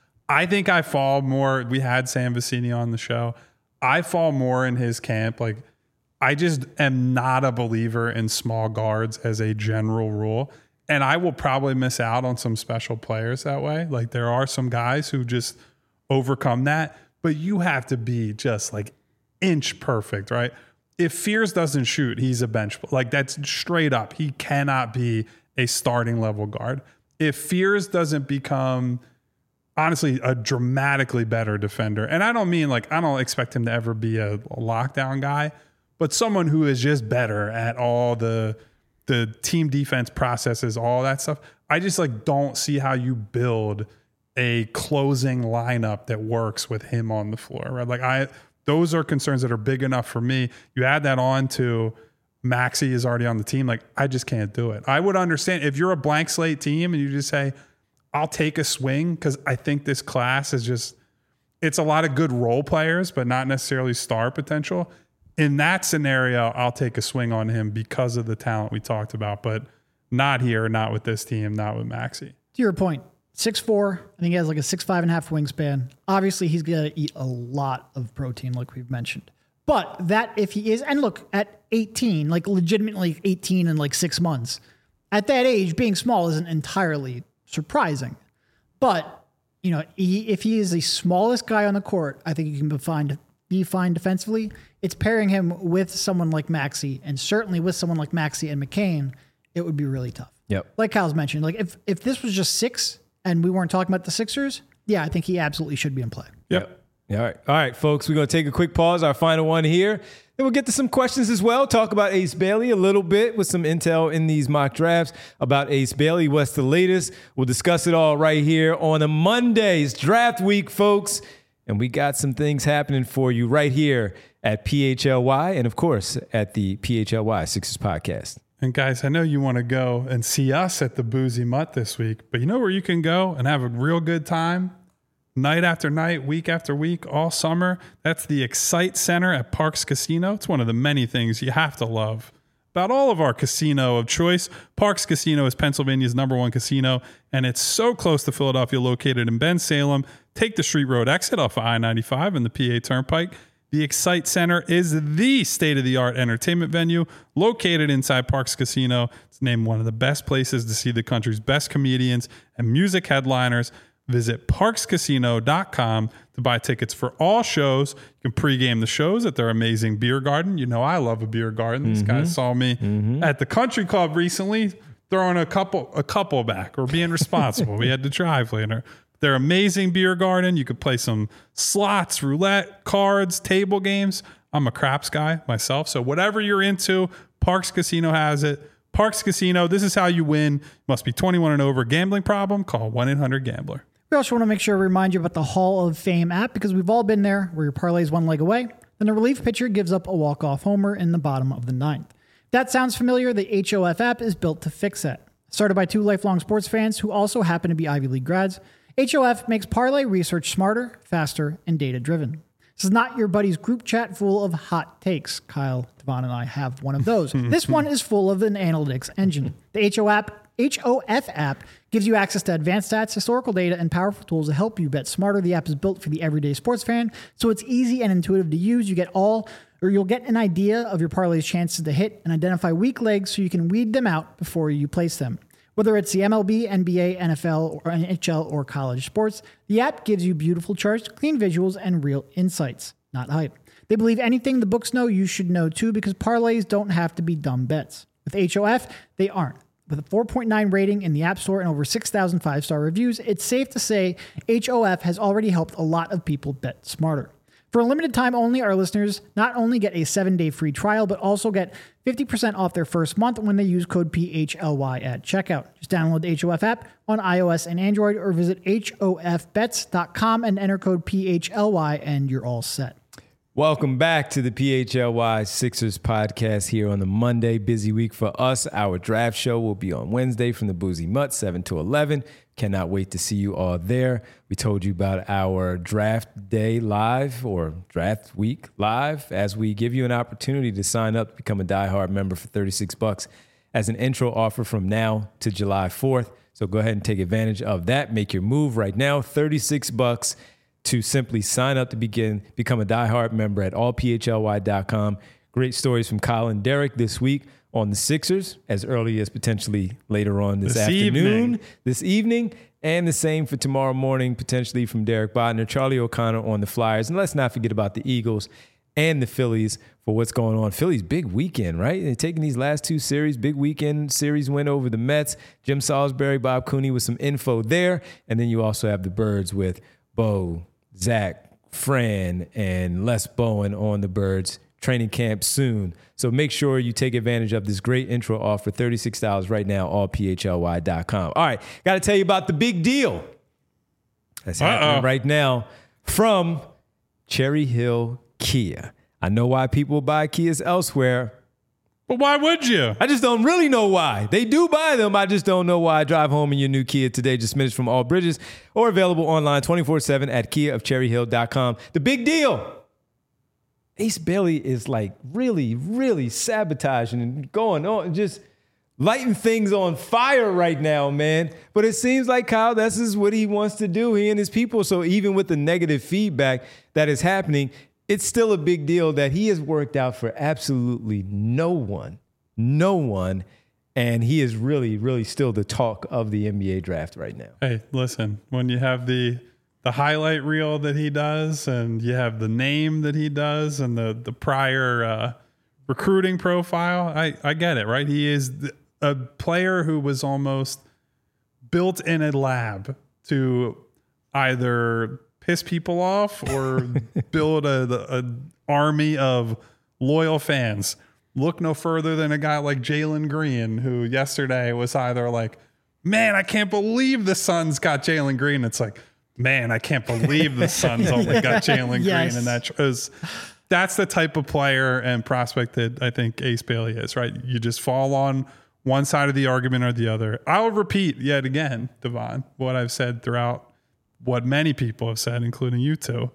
I think I fall more. We had Sam Vecini on the show. I fall more in his camp. Like, I just am not a believer in small guards as a general rule. And I will probably miss out on some special players that way. Like, there are some guys who just overcome that, but you have to be just like inch perfect, right? If Fears doesn't shoot, he's a bench. Like, that's straight up. He cannot be a starting level guard. If Fears doesn't become, honestly, a dramatically better defender, and I don't mean like, I don't expect him to ever be a, a lockdown guy, but someone who is just better at all the the team defense processes, all that stuff. I just like don't see how you build a closing lineup that works with him on the floor, right? Like I, those are concerns that are big enough for me. You add that on to Maxey is already on the team. Like I just can't do it. I would understand if you're a blank slate team and you just say, I'll take a swing because I think this class is just, it's a lot of good role players, but not necessarily star potential. In that scenario, I'll take a swing on him because of the talent we talked about, but not here, not with this team, not with Maxey. To your point, six four. I think he has like a six five and a half wingspan. Obviously, he's going to eat a lot of protein, like we've mentioned. But that if he is, and look, at eighteen, like legitimately eighteen in like six months, at that age, being small isn't entirely surprising. But, you know, he, if he is the smallest guy on the court, I think you can be fine, be fine defensively. It's pairing him with someone like Maxey, and certainly with someone like Maxey and McCain, it would be really tough. Yep. Like Kyle's mentioned, like if, if this was just six and we weren't talking about the Sixers, yeah, I think he absolutely should be in play. Yep. All right. All right, folks, we're going to take a quick pause, our final one here. Then we'll get to some questions as well. Talk about Ace Bailey a little bit with some intel in these mock drafts about Ace Bailey. What's the latest? We'll discuss it all right here on a Monday's draft week, folks. And we got some things happening for you right here at P H L Y and, of course, at the P H L Y Sixers podcast. And guys, I know you want to go and see us at the Boozy Mutt this week, but you know where you can go and have a real good time? Night after night, week after week, all summer. That's the Excite Center at Parx Casino. It's one of the many things you have to love about all of our casino of choice. Parx Casino is Pennsylvania's number one casino, and it's so close to Philadelphia, located in Bensalem. Take the Street Road exit off of I ninety-five and the P A Turnpike. The Excite Center is the state-of-the-art entertainment venue located inside Parx Casino. It's named one of the best places to see the country's best comedians and music headliners. Visit parx casino dot com to buy tickets for all shows. You can pregame the shows at their amazing beer garden. You know I love a beer garden. These Mm-hmm. guys saw me mm-hmm. at the country club recently throwing a couple a couple back or being responsible. We had to drive later. Their amazing beer garden. You could play some slots, roulette, cards, table games. I'm a craps guy myself, so whatever you're into, Parx Casino has it. Parx Casino, this is how you win. Must be twenty-one and over. Gambling problem? Call one eight hundred gambler. We also want to make sure to remind you about the Hall of Fame app, because we've all been there where your parlay is one leg away, then the relief pitcher gives up a walk-off homer in the bottom of the ninth. If that sounds familiar, the H O F app is built to fix that. Started by two lifelong sports fans who also happen to be Ivy League grads, H O F makes parlay research smarter, faster, and data-driven. This is not your buddy's group chat full of hot takes. Kyle, Devon, and I have one of those. This one is full of an analytics engine. The H O app H O F app gives you access to advanced stats, historical data, and powerful tools to help you bet smarter. The app is built for the everyday sports fan, so it's easy and intuitive to use. You get all, or you'll get an idea of your parlay's chances to hit and identify weak legs so you can weed them out before you place them. Whether it's the M L B, N B A, N F L, or N H L, or college sports, the app gives you beautiful charts, clean visuals, and real insights, not hype. They believe anything the books know, you should know too, because parlays don't have to be dumb bets. With H O F, they aren't. With a four point nine rating in the App Store and over six thousand five-star reviews, it's safe to say H O F has already helped a lot of people bet smarter. For a limited time only, our listeners not only get a seven-day free trial, but also get fifty percent off their first month when they use code P H L Y at checkout. Just download the H O F app on iOS and Android or visit H O F bets dot com and enter code P H L Y and you're all set. Welcome back to the P H L Y Sixers podcast here on the Monday. Busy week for us. Our draft show will be on Wednesday from the Boozy Mutt, seven to eleven. Cannot wait to see you all there. We told you about our draft day live or draft week live as we give you an opportunity to sign up to become a diehard member for thirty-six bucks as an intro offer from now to July fourth. So go ahead and take advantage of that. Make your move right now. thirty-six bucks to simply sign up to begin, become a diehard member at all P H L Y dot com. Great stories from Kyle and Derek this week on the Sixers, as early as potentially later on this, This afternoon, evening. this evening, and the same for tomorrow morning, potentially from Derek Bodner, Charlie O'Connor on the Flyers. And let's not forget about the Eagles and the Phillies for what's going on. Phillies, big weekend, right? They're taking these last two series, big weekend series win over the Mets. Jim Salisbury, Bob Cooney with some info there. And then you also have the Birds with Bo, Zach, Fran, and Les Bowen on the Birds. Training camp soon. So make sure you take advantage of this great intro offer, thirty-six dollars right now, all P H L Y dot com. All right, got to tell you about the big deal that's happening Uh-oh. right now from Cherry Hill Kia. I know why people buy Kias elsewhere. But why would you? I just don't really know why. They do buy them. I just don't know why. Drive home in your new Kia today, just minutes from all bridges, or available online twenty-four seven at kia of cherry hill dot com. The big deal. Ace Bailey is like really, really sabotaging and going on, just lighting things on fire right now, man. But it seems like, Kyle, this is what he wants to do, he and his people. So even with the negative feedback that is happening, it's still a big deal that he has worked out for absolutely no one, no one. And he is really, really still the talk of the N B A draft right now. Hey, listen, when you have the the highlight reel that he does and you have the name that he does and the, the prior uh, recruiting profile, I, I get it, right? He is th- a player who was almost built in a lab to either piss people off or build a, a army of loyal fans. Look no further than a guy like Jalen Green, who yesterday was either like, man, I can't believe the Suns got Jalen Green. It's like, man, I can't believe the Suns only got Jalen Yes. Green. And that is, that's the type of player and prospect that I think Ace Bailey is, right? You just fall on one side of the argument or the other. I'll repeat yet again, Devon, what I've said throughout what many people have said, including you two.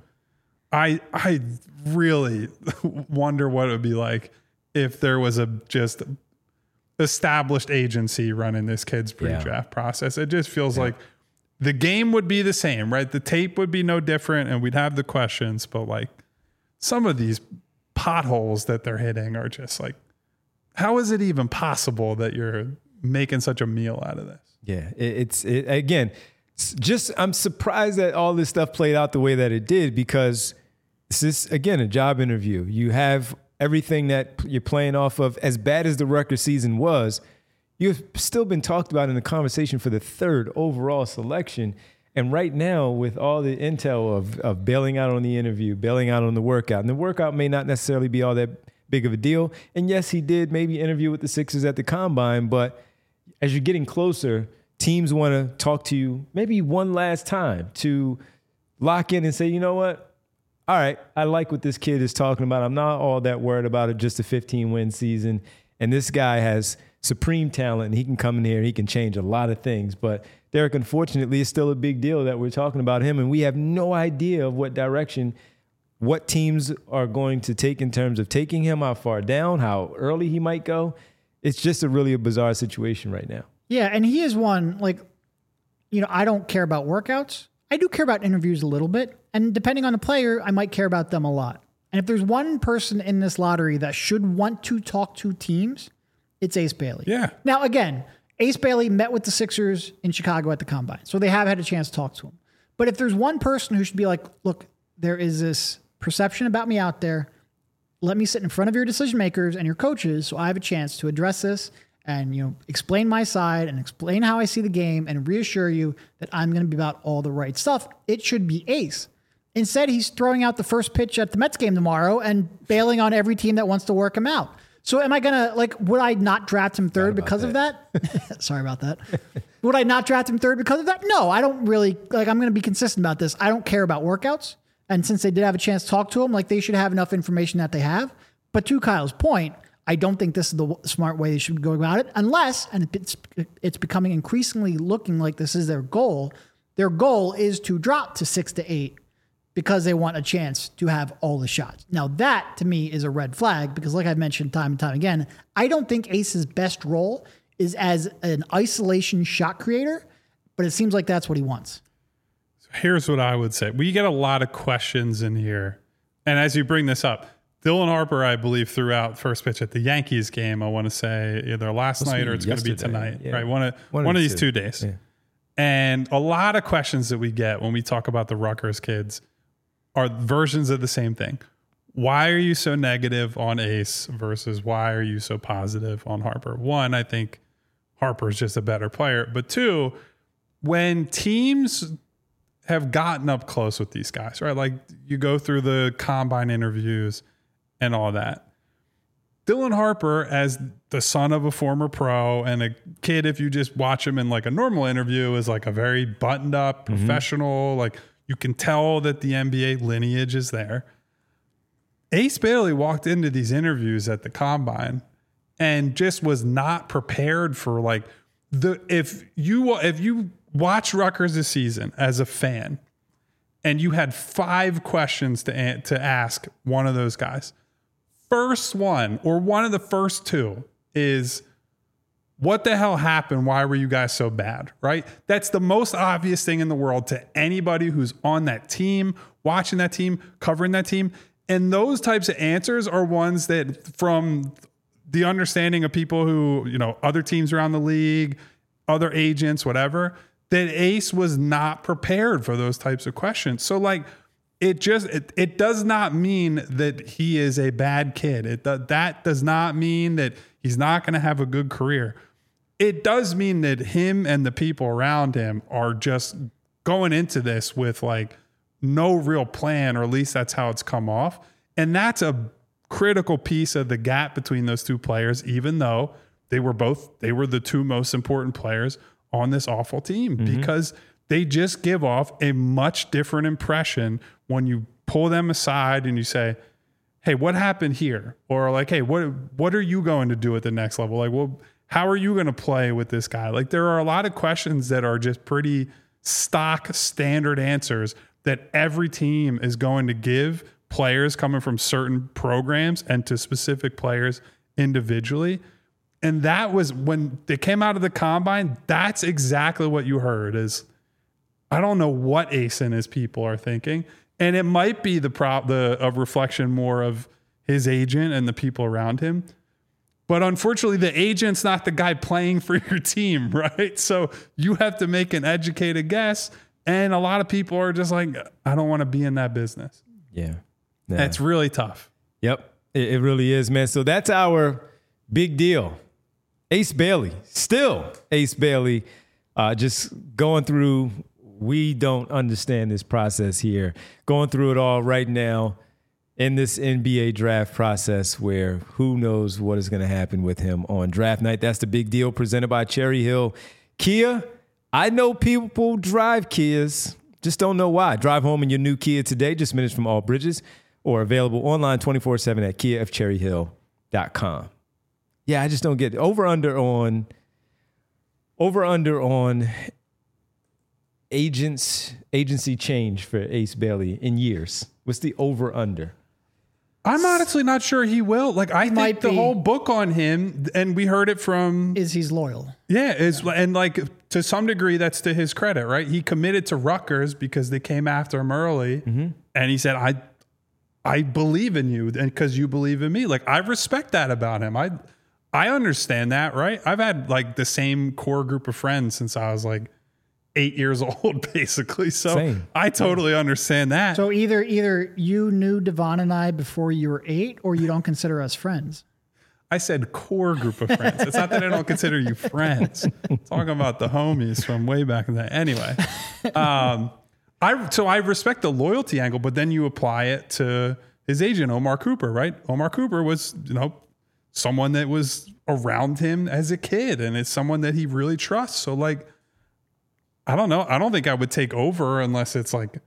I I really wonder what it would be like if there was a just established agency running this kid's pre-draft yeah. process. It just feels yeah. like the game would be the same, right? The tape would be no different and we'd have the questions, but like some of these potholes that they're hitting are just like, how is it even possible that you're making such a meal out of this? Yeah, it, it's it, again, it's just I'm surprised that all this stuff played out the way that it did, because this is, again, a job interview. You have everything that you're playing off of. As bad as the Rutgers season was, you've still been talked about in the conversation for the third overall selection. And right now, with all the intel of, of bailing out on the interview, bailing out on the workout, and the workout may not necessarily be all that big of a deal. And yes, he did maybe interview with the Sixers at the Combine, but as you're getting closer, teams want to talk to you maybe one last time to lock in and say, you know what? All right, I like what this kid is talking about. I'm not all that worried about it, just a fifteen-win season. And this guy has supreme talent, and he can come in here and he can change a lot of things. But Derek, unfortunately, it's still a big deal that we're talking about him, and we have no idea of what direction, what teams are going to take in terms of taking him, how far down, how early he might go. It's just a really a bizarre situation right now. Yeah, and he is one, like, you know, I don't care about workouts. I do care about interviews a little bit. And depending on the player, I might care about them a lot. And if there's one person in this lottery that should want to talk to teams, it's Ace Bailey. Yeah. Now, again, Ace Bailey met with the Sixers in Chicago at the Combine, so they have had a chance to talk to him. But if there's one person who should be like, look, there is this perception about me out there. Let me sit in front of your decision makers and your coaches so I have a chance to address this and, you know, explain my side and explain how I see the game and reassure you that I'm going to be about all the right stuff. It should be Ace. Instead, he's throwing out the first pitch at the Mets game tomorrow and bailing on every team that wants to work him out. So am I going to, like, would I not draft him third because that. of that? Sorry about that. Would I not draft him third because of that? No, I don't really, like, I'm going to be consistent about this. I don't care about workouts. And since they did have a chance to talk to him, like, they should have enough information that they have. But to Kyle's point, I don't think this is the smart way they should go about it, unless, and it's, it's becoming increasingly looking like this is their goal. Their goal is to drop to six to eight because they want a chance to have all the shots. Now that to me is a red flag because like I've mentioned time and time again, I don't think Ace's best role is as an isolation shot creator, but it seems like that's what he wants. So here's what I would say. We get a lot of questions in here. And as you bring this up, Dylan Harper, I believe, threw out first pitch at the Yankees game. I want to say either last Must night or it's going to be tonight, yeah. right? One of, one, one of two. these two days. Yeah. And a lot of questions that we get when we talk about the Rutgers kids are versions of the same thing. Why are you so negative on Ace versus why are you so positive on Harper? One, I think Harper is just a better player. But two, when teams have gotten up close with these guys, right? Like you go through the combine interviews and all that. Dylan Harper, as the son of a former pro and a kid, if you just watch him in like a normal interview, is like a very buttoned up professional. Mm-hmm. Like you can tell that the N B A lineage is there. Ace Bailey walked into these interviews at the combine and just was not prepared for like the, if you, if you watch Rutgers this season as a fan and you had five questions to, to ask one of those guys, first one or one of the first two is what the hell happened? Why were you guys so bad? Right? That's the most obvious thing in the world to anybody who's on that team, watching that team, covering that team. And those types of answers are ones that from the understanding of people who, you know, other teams around the league, other agents, whatever, that Ace was not prepared for those types of questions. So like, It just, it, it does not mean that he is a bad kid. It That does not mean that he's not going to have a good career. It does mean that him and the people around him are just going into this with like no real plan, or at least that's how it's come off. And that's a critical piece of the gap between those two players, even though they were both, they were the two most important players on this awful team, mm-hmm. because they just give off a much different impression when you pull them aside and you say, hey, what happened here? Or like, hey, what what are you going to do at the next level? Like, well, how are you going to play with this guy? Like, there are a lot of questions that are just pretty stock standard answers that every team is going to give players coming from certain programs and to specific players individually. And that was when they came out of the combine, that's exactly what you heard is, I don't know what Ace and his people are thinking. And it might be the prop, the a reflection more of his agent and the people around him. But unfortunately, the agent's not the guy playing for your team, right? So you have to make an educated guess. And a lot of people are just like, I don't want to be in that business. Yeah. yeah. It's really tough. Yep. It, it really is, man. So that's our big deal. Ace Bailey, still Ace Bailey, uh, just going through. We don't understand this process here. Going through it all right now in this N B A draft process where who knows what is going to happen with him on draft night. That's the big deal presented by Cherry Hill Kia. I know people drive Kias, just don't know why. Drive home in your new Kia today, just minutes from All Bridges, or available online twenty-four seven at kia f cherry hill dot com. Yeah, I just don't get it. Over under on, over under on agents, agency change for Ace Bailey in years. What's the over under? I'm honestly not sure he will. Like, I Might think the be. whole book on him, and we heard it from, Is he's loyal? yeah, is and like to some degree that's to his credit, right? He committed to Rutgers because they came after him early, mm-hmm. and he said, "I, I believe in you, and because you believe in me." Like, I respect that about him. I, I understand that, right? I've had like the same core group of friends since I was like eight years old, basically. So Same. I totally understand that. So either either you knew Devon and I before you were eight, or you don't consider us friends. I said core group of friends. It's not that I don't consider you friends. I'm talking about the homies from way back in the day. Anyway, um, I so I respect the loyalty angle, but then you apply it to his agent, Omar Cooper, right? Omar Cooper was, you know, someone that was around him as a kid, and it's someone that he really trusts. So, like, I don't know. I don't think I would take over unless it's like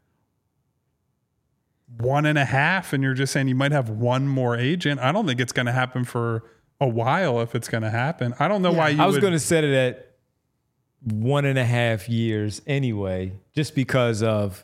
one and a half, and you're just saying you might have one more agent. I don't think it's going to happen for a while if it's going to happen. I don't know Yeah. why you I was would. going to set it at one and a half years anyway, just because of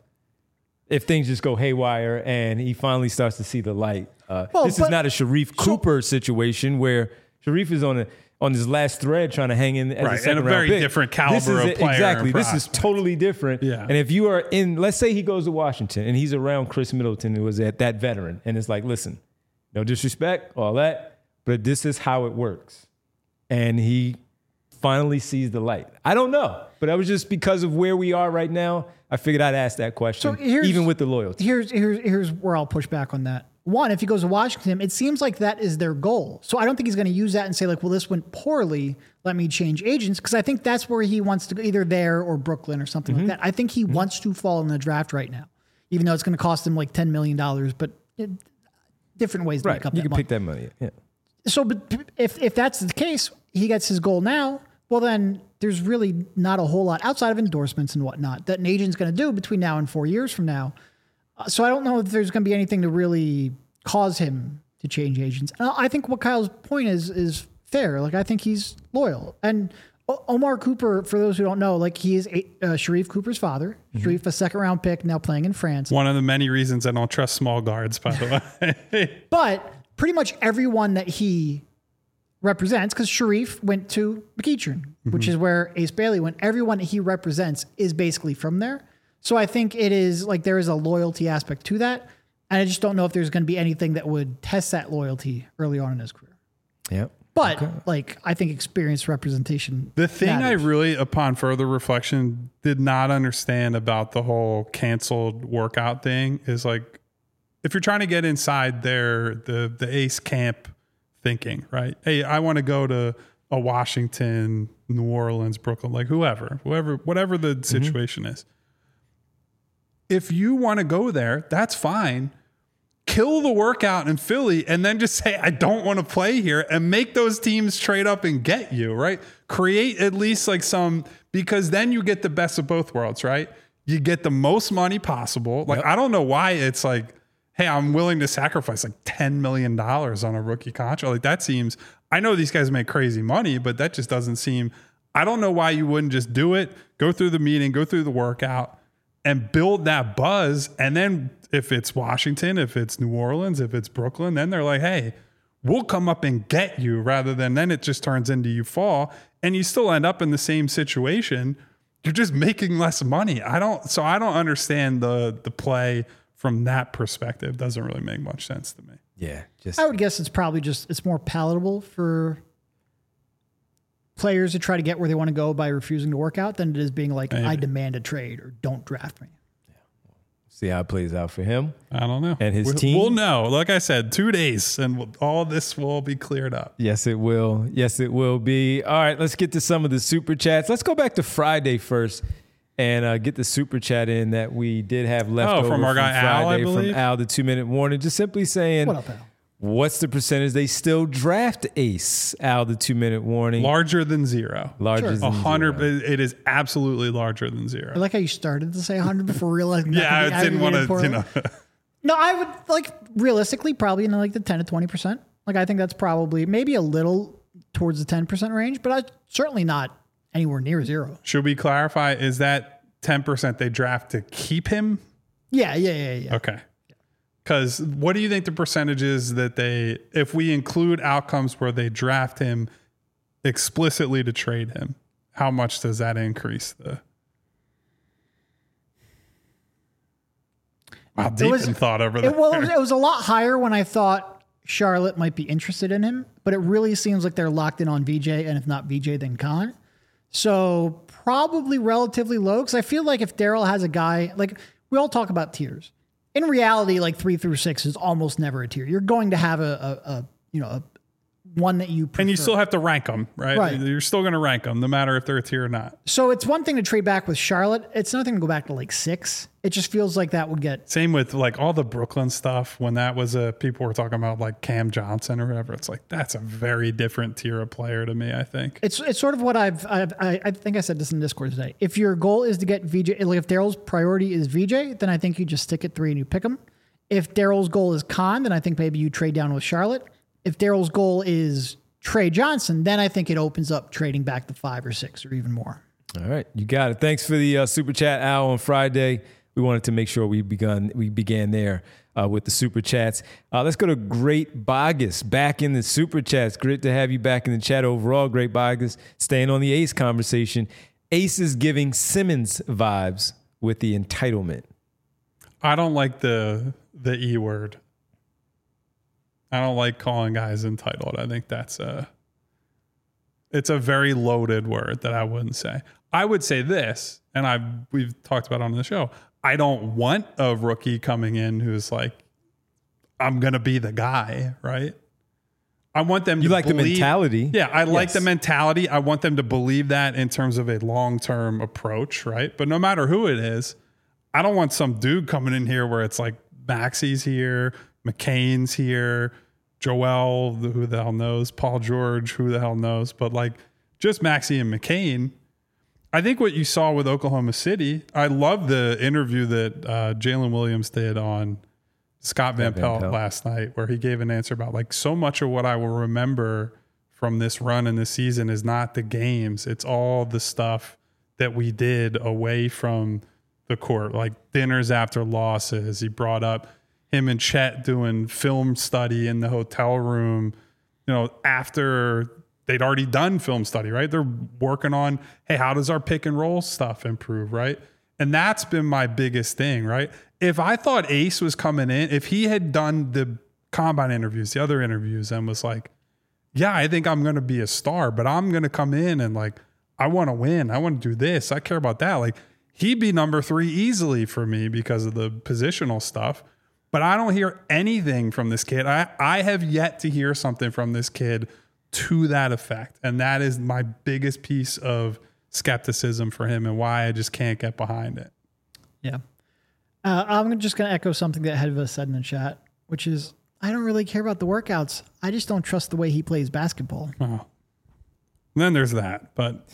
if things just go haywire and he finally starts to see the light. Uh, Well, this is but- not a Sharif Cooper situation where Sharif is on a on his last thread trying to hang in as Right, a and second a round very pick. different caliber This is of a- player Exactly, and this is prospect. totally different. Yeah. And if you are in, let's say he goes to Washington and he's around Chris Middleton, who was at that veteran, and it's like, listen, no disrespect, all that, but this is how it works. And he finally sees the light. I don't know, but that was just because of where we are right now. I figured I'd ask that question, So here's- even with the loyalty. Here's here's here's where I'll push back on that. One, if he goes to Washington, it seems like that is their goal. So I don't think he's going to use that and say like, well, this went poorly, let me change agents, because I think that's where he wants to go, either there or Brooklyn or something Mm-hmm. like that. I think he wants to fall in the draft right now, even though it's going to cost him like ten million dollars, but it, different ways to Right, make up you that can money. pick that money. Yeah. So, but if if that's the case, he gets his goal now. Well, then there's really not a whole lot outside of endorsements and whatnot that an agent's going to do between now and four years from now. Uh, so I don't know if there's going to be anything to really cause him to change agents. And I think what Kyle's point is is fair. Like I think he's loyal. And O- Omar Cooper, for those who don't know, like he is a, uh, Sharif Cooper's father. Mm-hmm. Sharif, a second round pick, now playing in France. One of the many reasons I don't trust small guards, by the way. But pretty much everyone that he represents, because Sharif went to McEachern, which is where Ace Bailey went. Everyone that he represents is basically from there. So I think it is like there is a loyalty aspect to that. And I just don't know if there's going to be anything that would test that loyalty early on in his career. Yeah. But like, I think experienced representation. The thing I matters. really, upon further reflection, did not understand about the whole canceled workout thing is like, if you're trying to get inside their the the Ace camp thinking, right? Hey, I want to go to a Washington, New Orleans, Brooklyn, like whoever, whoever, whatever the situation is. If you want to go there, that's fine. Kill the workout in Philly and then just say, I don't want to play here, and make those teams trade up and get you, right? Create at least like some, because then you get the best of both worlds, right? You get the most money possible. Like, Yep. I don't know why it's like, hey, I'm willing to sacrifice like ten million dollars on a rookie contract. Like that seems, I know these guys make crazy money, but that just doesn't seem, I don't know why you wouldn't just do it, go through the meeting, go through the workout, and build that buzz. And then if it's Washington, if it's New Orleans, if it's Brooklyn, then they're like, hey, we'll come up and get you, rather than then it just turns into you fall and you still end up in the same situation. You're just making less money. I don't, so I don't understand the the play from that perspective. Doesn't really make much sense to me. Yeah. Just I would guess it's probably just, it's more palatable for players to try to get where they want to go by refusing to work out than it is being like, Maybe. I demand a trade or don't draft me. see how it plays out for him. I don't know. And his we'll, team? We'll know. Like I said, two days and we'll, all this will be cleared up. Yes, it will. Yes, it will be. All right, let's get to some of the super chats. Let's go back to Friday first and uh, get the super chat in that we did have left Oh, over from our guy Al, I Friday believe? from Al, the two minute warning. Just simply saying, What up, Al? what's the percentage they still draft Ace? Al, the two minute warning. Larger than zero. Larger Sure. than A hundred. zero. It is absolutely larger than zero. I like how you started to say one hundred before realizing that yeah, could be I didn't want to, aggregated you poorly. know. No, I would like realistically probably in like the ten to twenty percent. Like I think that's probably maybe a little towards the ten percent range, but I certainly not anywhere near zero. Should we clarify? Is that ten percent they draft to keep him? Yeah, yeah, yeah, yeah. Okay. Because what do you think the percentage is that they, if we include outcomes where they draft him explicitly to trade him, how much does that increase the? Wow, deep was- in thought over there. It, well, it was, it was a lot higher when I thought Charlotte might be interested in him, but it really seems like they're locked in on V J, and if not V J, then Khan. So probably relatively low, because I feel like if Daryl has a guy, like we all talk about tiers. In reality, like three through six is almost never a tier. You're going to have a, a, a you know, a one that you prefer. And you still have to rank them, right? Right. You're still going to rank them no matter if they're a tier or not. So it's one thing to trade back with Charlotte. It's another thing to go back to like six. It just feels like that would get... Same with like all the Brooklyn stuff. When that was a, people were talking about like Cam Johnson or whatever. It's like, that's a very different tier of player to me, I think. It's it's sort of what I've, I've I, I think I said this in Discord today. If your goal is to get V J, like if Daryl's priority is V J, then I think you just stick at three and you pick him. If Daryl's goal is Khan, then I think maybe you trade down with Charlotte. If Daryl's goal is Trey Johnson, then I think it opens up trading back to five or six or even more. All right, you got it. Thanks for the uh, super chat, Al, on Friday. We wanted to make sure we begun we began there uh, with the super chats. Uh, let's go to Great Bogus back in the super chats. Great to have you back in the chat overall, Great Bogus. Staying on the Ace conversation. Ace is giving Simmons vibes with the entitlement. I don't like the the E word. I don't like calling guys entitled. I think that's a, it's a very loaded word that I wouldn't say. I would say this, and I we've talked about it on the show. I don't want a rookie coming in who's like, I'm going to be the guy, right? I want them you to like believe, the mentality. Yeah, I like Yes. the mentality. I want them to believe that in terms of a long-term approach, right? But no matter who it is, I don't want some dude coming in here where it's like Maxi's here, McCain's here, Joel, who the hell knows, Paul George, who the hell knows, but like just Maxi and McCain. I think what you saw with Oklahoma City, I love the interview that uh, Jalen Williams did on Scott Van, Van Pelt, Pelt last night, where he gave an answer about like so much of what I will remember from this run in this season is not the games. It's all the stuff that we did away from the court, like dinners after losses. He brought up him and Chet doing film study in the hotel room, you know, after they'd already done film study, right? They're working on, hey, how does our pick and roll stuff improve, right? And that's been my biggest thing, right? If I thought Ace was coming in, if he had done the combine interviews, the other interviews, and was like, yeah, I think I'm going to be a star, but I'm going to come in and like, I want to win. I want to do this. I care about that. Like, he'd be number three easily for me because of the positional stuff. But I don't hear anything from this kid. I, I have yet to hear something from this kid to that effect. And that is my biggest piece of skepticism for him and why I just can't get behind it. Yeah. Uh, I'm just going to echo something that Hedva said in the chat, which is, I don't really care about the workouts. I just don't trust the way he plays basketball. Oh. And then there's that. But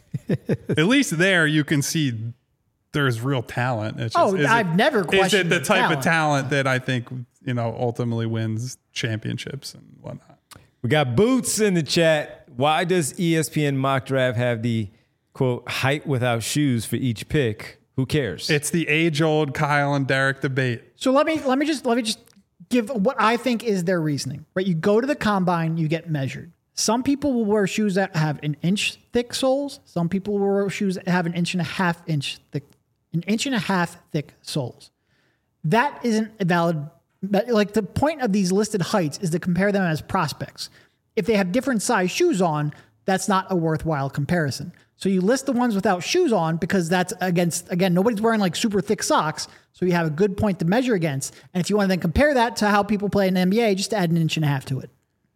at least there you can see there's real talent. It's just, oh, is I've it, never questioned Is it the, the type talent. of talent that I think, you know, ultimately wins championships and whatnot? We got Boots in the chat. Why does E S P N Mock Draft have the, quote, height without shoes for each pick? Who cares? It's the age-old Kyle and Derek debate. So let me let me just let me just give what I think is their reasoning. Right? You go to the combine, you get measured. Some people will wear shoes that have an inch thick soles. Some people will wear shoes that have an inch and a half inch thick, an inch and a half thick soles. That isn't a valid. Like, the point of these listed heights is to compare them as prospects. If they have different size shoes on, that's not a worthwhile comparison. So you list the ones without shoes on because that's against, again, nobody's wearing like super thick socks. So you have a good point to measure against. And if you want to then compare that to how people play in the N B A, just add an inch and a half to it.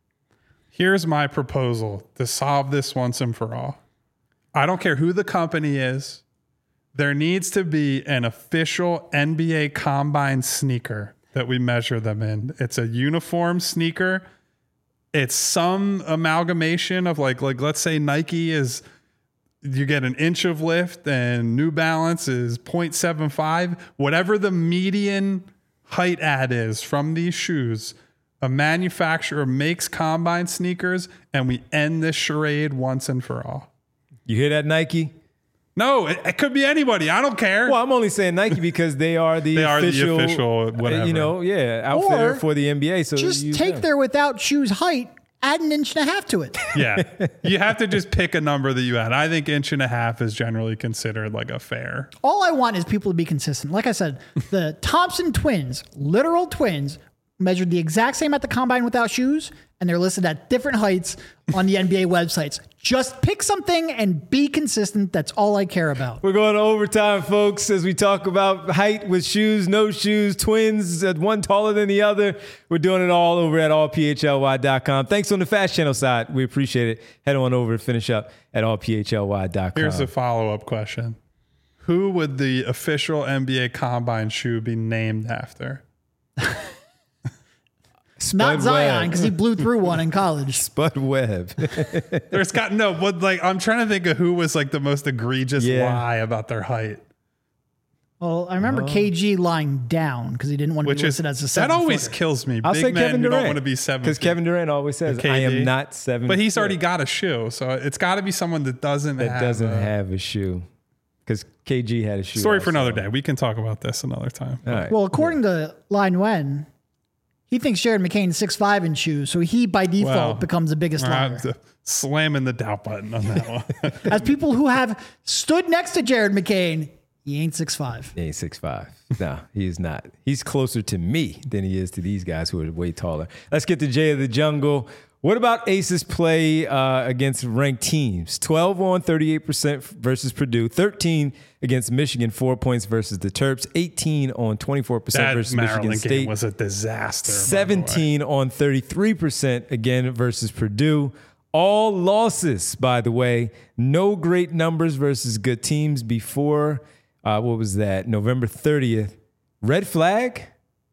Here's my proposal to solve this once and for all. I don't care who the company is. There needs to be an official N B A combine sneaker that we measure them in. It's a uniform sneaker. It's some amalgamation of like, like let's say Nike is, you get an inch of lift and New Balance is zero point seven five. Whatever the median height add is from these shoes, a manufacturer makes combine sneakers and we end this charade once and for all. You hear that, Nike? No, it, it could be anybody. I don't care. Well, I'm only saying Nike because they are the They are the official, official whatever. you know, yeah, outfitter Or for the N B A. So Just use take them. their without shoes height, add an inch and a half to it. Yeah. You have to just pick a number that you add. I think inch and a half is generally considered like a fair. All I want is people to be consistent. Like I said, the Thompson twins, literal twins, measured the exact same at the combine without shoes, and they're listed at different heights on the N B A websites. Just pick something and be consistent. That's all I care about. We're going to overtime, folks, as we talk about height with shoes, no shoes, twins, uh, one taller than the other. We're doing it all over at all p h l y dot com. Thanks on the Fast Channel side. We appreciate it. Head on over to finish up at all p h l y dot com. Here's a follow-up question. Who would the official N B A Combine shoe be named after? Not Zion, Webb. because he blew through one in college. Spud Webb. There's got no, but like I'm trying to think of who was like the most egregious Yeah. lie about their height. Well, I remember K G lying down because he didn't want to Which be is listed as a that seven always footer. kills me. I'll Big say men Kevin who Durant. don't want to be seven. Because Kevin Durant always says, K D. I am not seven. But he's foot." already got a shoe, so it's got to be someone that doesn't That have doesn't a, have a shoe. Because K G had a shoe. Story for also. another day. We can talk about this another time. All right. Well, according to Line Wen, he thinks Jared McCain is six five in shoes, so he by default Well, becomes the biggest liar. I'm slamming the doubt button on that one. As people who have stood next to Jared McCain, he ain't six five. He ain't six five. No, he is not. He's closer to me than he is to these guys who are way taller. Let's get to Jay of the Jungle. What about Ace's play uh, against ranked teams? twelve on thirty-eight percent versus Purdue, thirteen against Michigan, four points versus the Terps, eighteen on twenty-four percent That versus Maryland Michigan game State, was a disaster. by the way. seventeen on thirty-three percent again versus Purdue. All losses, by the way. No great numbers versus good teams before, uh, what was that, November thirtieth. Red flag?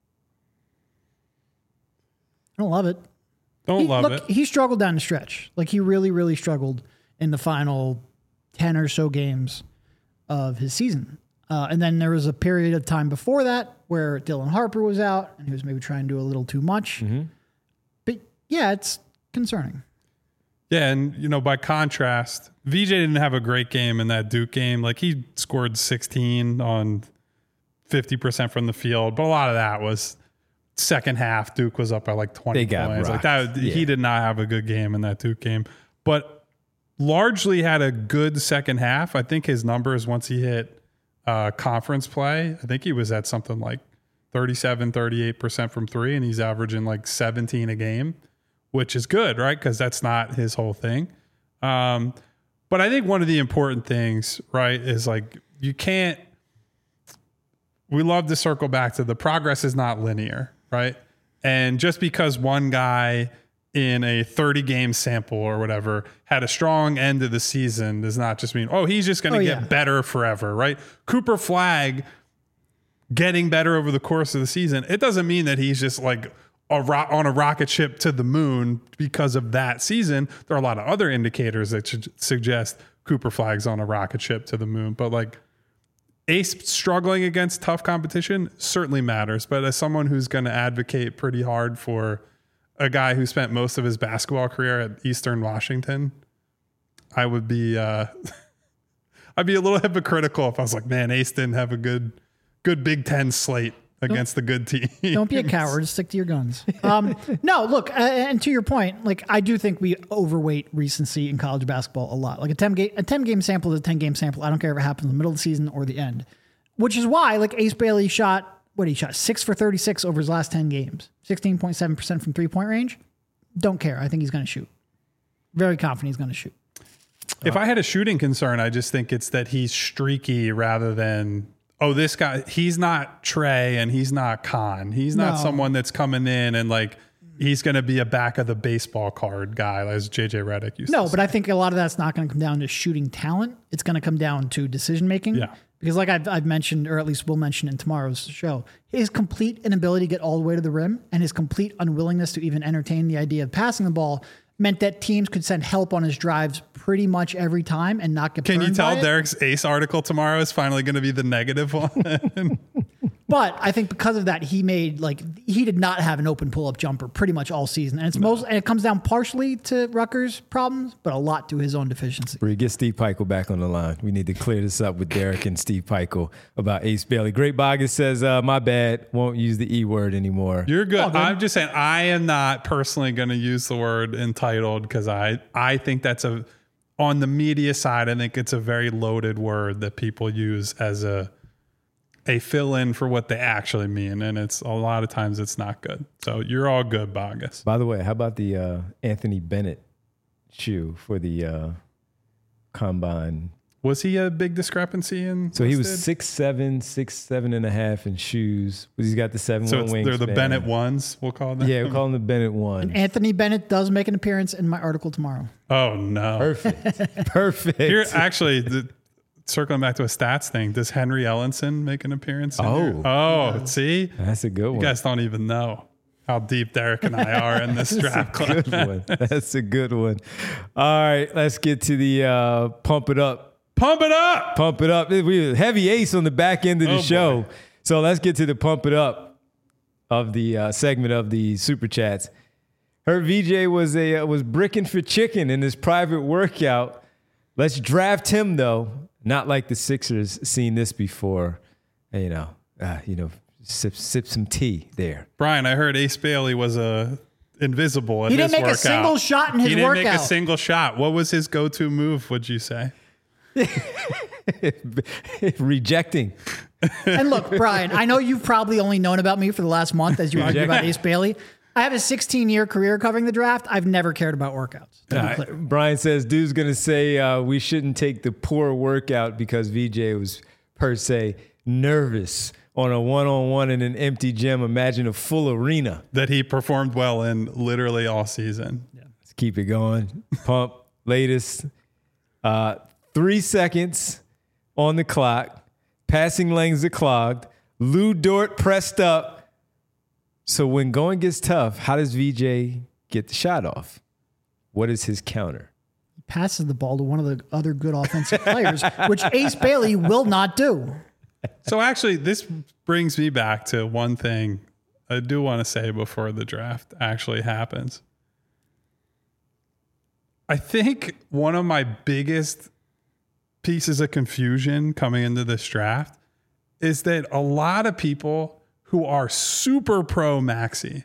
I don't love it. Don't he, love look, it. he struggled down the stretch. Like he really, really struggled in the final ten or so games of his season. Uh, and then there was a period of time before that where Dylan Harper was out and he was maybe trying to do a little too much. Mm-hmm. But yeah, it's concerning. Yeah, and you know, by contrast, V J didn't have a great game in that Duke game. Like he scored sixteen on fifty percent from the field, but a lot of that was second half. Duke was up by like twenty They got points. Like rocked. that, Yeah. he did not have a good game in that Duke game, but largely had a good second half. I think his numbers once he hit uh, conference play, I think he was at something like thirty-seven, thirty-eight percent from three, and he's averaging like seventeen a game, which is good, right? Because that's not his whole thing. Um, but I think one of the important things, right, is like you can't, we love to circle back to the progress is not linear, right? And just because one guy in a thirty game sample or whatever had a strong end of the season does not just mean, oh, he's just going to Oh, get yeah. better forever, right? Cooper Flagg getting better over the course of the season, it doesn't mean that he's just like a ro- on a rocket ship to the moon because of that season. There are a lot of other indicators that should suggest Cooper Flagg's on a rocket ship to the moon, but like Ace struggling against tough competition certainly matters. But as someone who's going to advocate pretty hard for a guy who spent most of his basketball career at Eastern Washington, I would be, uh, I'd be a little hypocritical if I was like, man, Ace didn't have a good, good Big Ten slate against the good team. Don't be a coward. Stick to your guns. Um, no, look, uh, and to your point, like I do think we overweight recency in college basketball a lot. Like a ten game, a ten game sample is a ten game sample. I don't care if it happens in the middle of the season or the end, which is why like Ace Bailey shot, what he shot six for thirty-six over his last ten games, sixteen point seven percent from three point range. Don't care. I think he's going to shoot. Very confident he's going to shoot. If I had a shooting concern, I just think it's that he's streaky rather than, oh, this guy, he's not Trey and he's not Khan. He's not No. someone that's coming in and like, he's going to be a back of the baseball card guy, as J J Redick used to No, say. but I think a lot of that's not going to come down to shooting talent. It's going to come down to decision making. Yeah. Because like I've, I've mentioned, or at least we'll mention in tomorrow's show, his complete inability to get all the way to the rim and his complete unwillingness to even entertain the idea of passing the ball meant that teams could send help on his drives pretty much every time and not get Can you burned tell by it. Derek's Ace article tomorrow is finally going to be the negative one? But I think because of that, he made like he did not have an open pull up jumper pretty much all season, and it's most and it comes down partially to Rutgers' problems, but a lot to his own deficiency. Bree, get Steve Peichel back on the line. We need to clear this up with Derek and Steve Peichel about Ace Bailey. Great Bogus says, uh, my bad, won't use the E word anymore. You're good. Oh, good. I'm just saying I am not personally going to use the word entitled because I, I think that's a, on the media side, I think it's a very loaded word that people use as a a fill-in for what they actually mean, and it's a lot of times it's not good. So you're all good, Bogus. By the way, how about the uh, Anthony Bennett shoe for the uh, combine? Was he a big discrepancy in? So he was listed? six seven, six seven and a half in shoes. But he's got the seven So one it's, wingspan. they're the Bennett ones. We'll call them. Yeah, we'll call them the Bennett one. Anthony Bennett does make an appearance in my article tomorrow. Oh no! Perfect, perfect. Here, actually, the, circling back to a stats thing, does Henry Ellenson make an appearance? In Oh. here? oh, see, That's a good you one. guys don't even know how deep Derek and I are in this draft club. Good one. That's a good one. All right, let's get to the uh, pump it up. Pump it up! Pump it up. We heavy ace on the back end of the Oh, show. boy. So let's get to the pump it up of the uh, segment of the super chats. Her V J was a uh, was bricking for chicken in his private workout. Let's draft him though. Not like the Sixers seen this before. And, you know, uh, you know, sip sip some tea there. Brian, I heard Ace Bailey was a invisible at He his didn't make a workout. single shot in his He didn't workout. make a single shot. What was his go-to move, would you say? Rejecting. And look, Brian, I know you've probably only known about me for the last month as you argue about Ace Bailey. I have a sixteen-year career covering the draft. I've never cared about workouts. to be Uh, clear. Brian says, dude's going to say uh, we shouldn't take the poor workout because V J was, per se, nervous on a one-on-one in an empty gym. Imagine a full arena. That he performed well in literally all season. Let's keep it going. Pump, latest. Uh, three seconds on the clock. Passing lanes are clogged. Lou Dort pressed up. So when going gets tough, how does V J get the shot off? What is his counter? Passes the ball to one of the other good offensive players, which Ace Bailey will not do. So actually, this brings me back to one thing I do want to say before the draft actually happens. I think one of my biggest pieces of confusion coming into this draft is that a lot of people who are super pro Maxey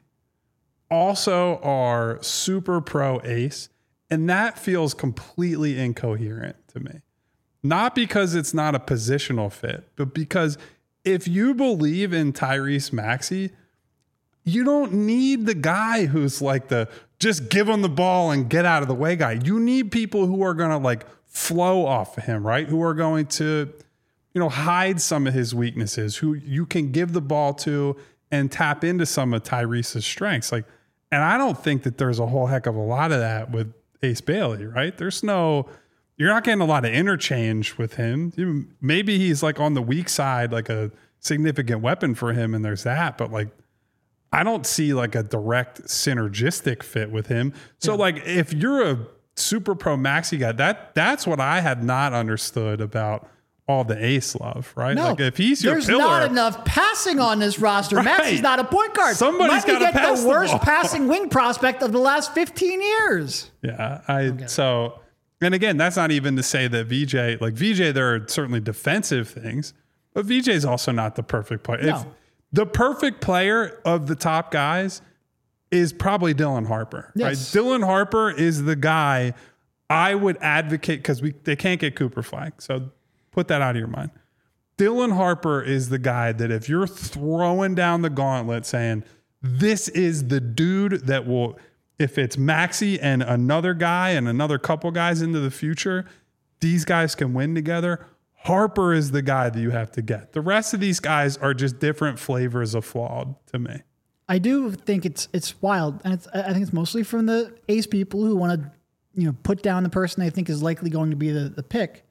also are super pro Ace, and that feels completely incoherent to me. Not because it's not a positional fit, but because if you believe in Tyrese Maxey, you don't need the guy who's like the just give him the ball and get out of the way guy. You need people who are going to like flow off of him, right? Who are going to, you know, hide some of his weaknesses, who you can give the ball to and tap into some of Tyrese's strengths. Like, and I don't think that there's a whole heck of a lot of that with Ace Bailey, right? There's no, you're not getting a lot of interchange with him. Maybe he's like on the weak side, like a significant weapon for him, and there's that, but like, I don't see like a direct synergistic fit with him. So yeah. like if you're a super pro Maxey guy, that that's what I had not understood about all the Ace love, right? No, like if he's your there's pillar, not enough passing on this roster. Right. Maxey's not a point guard. Somebody's got to get pass the the worst ball. passing wing prospect of the last fifteen years. Yeah, I so and again, that's not even to say that V J, like V J, there are certainly defensive things, but V J is also not the perfect player. No. If the perfect player of the top guys is probably Dylan Harper, Yes. right? Dylan Harper is the guy I would advocate because we they can't get Cooper Flag, so put that out of your mind. Dylan Harper is the guy that if you're throwing down the gauntlet saying this is the dude that will, if it's Maxey and another guy and another couple guys into the future, these guys can win together. Harper is the guy that you have to get. The rest of these guys are just different flavors of flawed to me. I do think it's it's wild, and it's, I think it's mostly from the Ace people who want to, you know, put down the person they think is likely going to be the, the pick.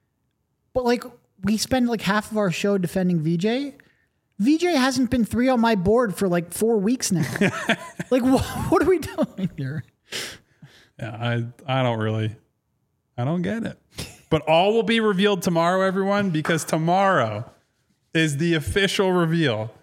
But like we spend like half of our show defending V J. V J hasn't been three on my board for like four weeks now. Like what, what are we doing here? Yeah, I I don't really, I don't get it. But all will be revealed tomorrow, everyone, because tomorrow is the official reveal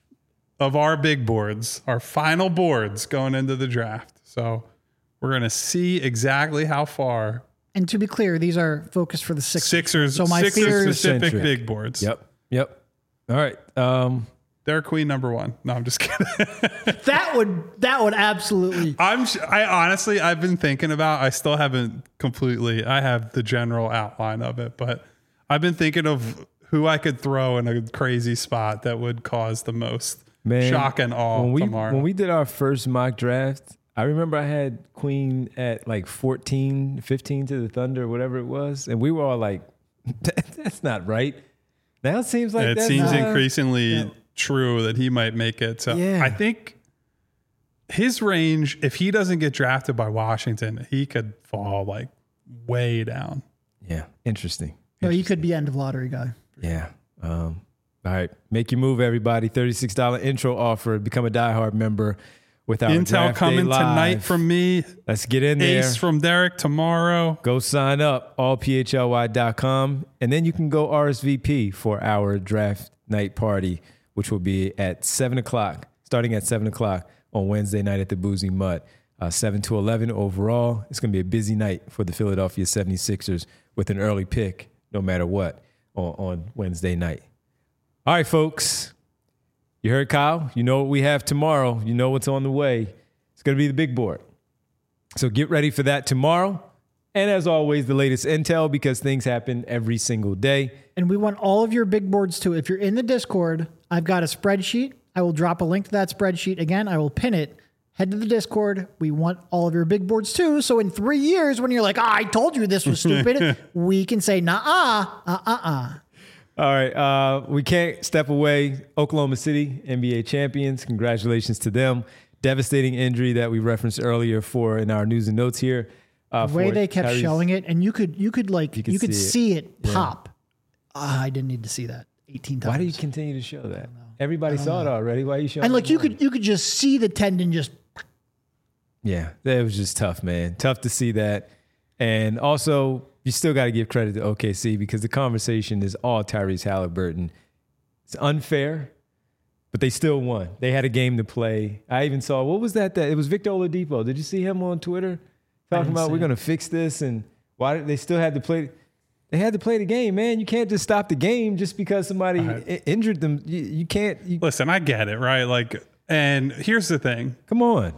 of our big boards, our final boards going into the draft. So we're going to see exactly how far. And to be clear, these are focused for the Sixers. Sixers, So my Sixers fears- specific Centric. big boards. Yep. Yep. All right. Um, They're queen number one. No, I'm just kidding. That would that would absolutely. I'm. I honestly, I've been thinking about. I still haven't completely. I have the general outline of it, but I've been thinking of who I could throw in a crazy spot that would cause the most Man, shock and awe when we, tomorrow. When we did our first mock draft, I remember I had Queen at like fourteen, fifteen to the Thunder, whatever it was. And we were all like, that's not right. Now it seems like it that's seems not, increasingly yeah. true that he might make it. So Yeah. I think his range, if he doesn't get drafted by Washington, he could fall like way down. Yeah, interesting. No, you could be end of lottery guy. Yeah. Um, all right. Make your move, everybody. thirty-six dollars intro offer. Become a diehard member with our Intel Draft Day coming Live. tonight from me. Let's get in there. Ace from Derek tomorrow. Go sign up, all p h l y dot com. And then you can go R S V P for our draft night party, which will be at seven o'clock, starting at seven o'clock on Wednesday night at the Boozy Mutt. Uh, seven to eleven overall. It's going to be a busy night for the Philadelphia seventy-sixers with an early pick, no matter what, on, on Wednesday night. All right, folks. You heard Kyle. You know what we have tomorrow. You know what's on the way. It's going to be the big board. So get ready for that tomorrow. And as always, the latest intel, because things happen every single day. And we want all of your big boards too. If you're in the Discord, I've got a spreadsheet. I will drop a link to that spreadsheet. Again, I will pin it. Head to the Discord. We want all of your big boards too. So in three years, when you're like, oh, I told you this was stupid, we can say, nah-uh, uh-uh-uh. All right. Uh, we can't step away. Oklahoma City, N B A champions. Congratulations to them. Devastating injury that we referenced earlier for in our news and notes here. Uh, The way for they kept Tyrese. showing it, and you could you could like You you could could, see see it. it, pop. Ah, I didn't need to see that eighteen times. Why do you continue to show that? Everybody saw it already. Why are you showing and it like you more? could you could just see the tendon just Yeah, that was just tough, man. Tough to see that. And also, you still got to give credit to O K C because the conversation is all Tyrese Halliburton. It's unfair, but they still won. They had a game to play. I even saw, what was that? That it was Victor Oladipo. Did you see him on Twitter talking didn't about see we're it. going to fix this? And why did they still had to play? They had to play the game, man. You can't just stop the game just because somebody Right. i- injured them. You, you can't. You, Listen, I get it, right? Like, and here's the thing. come on.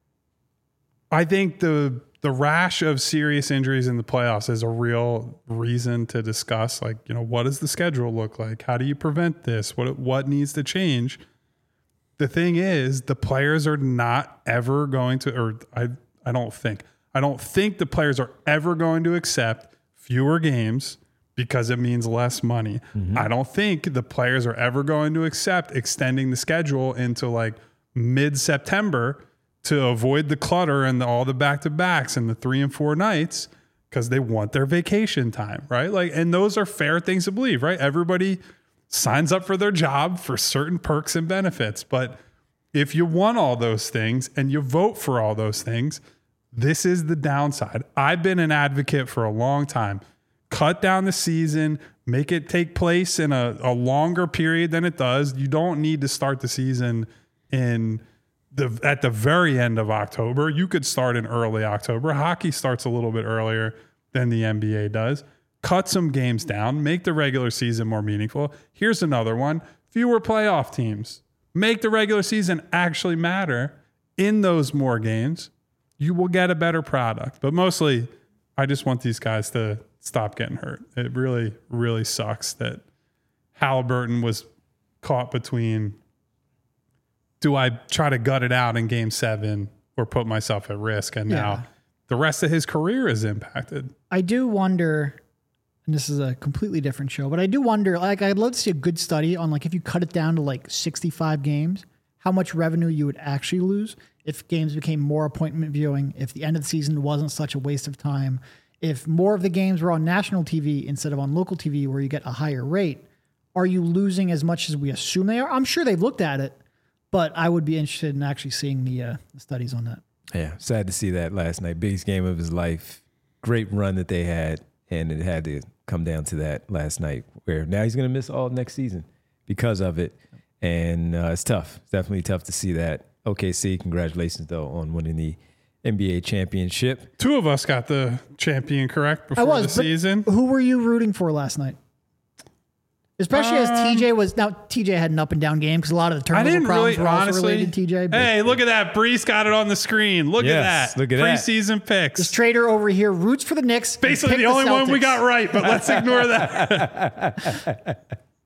I think the the rash of serious injuries in the playoffs is a real reason to discuss, like, you know, what does the schedule look like? How do you prevent this? What what needs to change? The thing is, the players are not ever going to, or I I don't think, I don't think the players are ever going to accept fewer games because it means less money. I don't think the players are ever going to accept extending the schedule into like mid-September to avoid the clutter and the, all the back-to-backs and the three and four nights because they want their vacation time, right? Like, and those are fair things to believe, right? Everybody signs up for their job for certain perks and benefits. But if you want all those things and you vote for all those things, this is the downside. I've been an advocate for a long time. Cut down the season, make it take place in a, a longer period than it does. You don't need to start the season in the at the very end of October. You could start in early October. Hockey starts a little bit earlier than the N B A does. Cut some games down, make the regular season more meaningful. Here's another one. Fewer playoff teams. Make the regular season actually matter in those more games. You will get a better product. But mostly, I just want these guys to stop getting hurt. It really, really sucks that Halliburton was caught between, do I try to gut it out in game seven or put myself at risk? And Yeah. now the rest of his career is impacted. I do wonder, and this is a completely different show, but I do wonder, like, I'd love to see a good study on, like, if you cut it down to like sixty-five games, how much revenue you would actually lose if games became more appointment viewing, if the end of the season wasn't such a waste of time, if more of the games were on national T V instead of on local T V where you get a higher rate. Are you losing as much as we assume they are? I'm sure they've looked at it, but I would be interested in actually seeing the, uh, the studies on that. Yeah, sad to see that last night. Biggest game of his life. Great run that they had, and it had to come down to that last night where now he's going to miss all next season because of it. And uh, it's tough. It's definitely tough to see that. O K C, congratulations, though, on winning the N B A championship. Two of us got the champion correct I before was, the but season. who were you rooting for last night? Especially as Um, T J was now T J had an up and down game because a lot of the I turnover didn't problems really were also honestly. related to T J. but Hey, look at that! Brees got it on the screen. Look Yes, at that! look at that. Preseason picks. This trader over here roots for the Knicks. and Basically, picked the only one we Celtics. got right. But let's ignore that.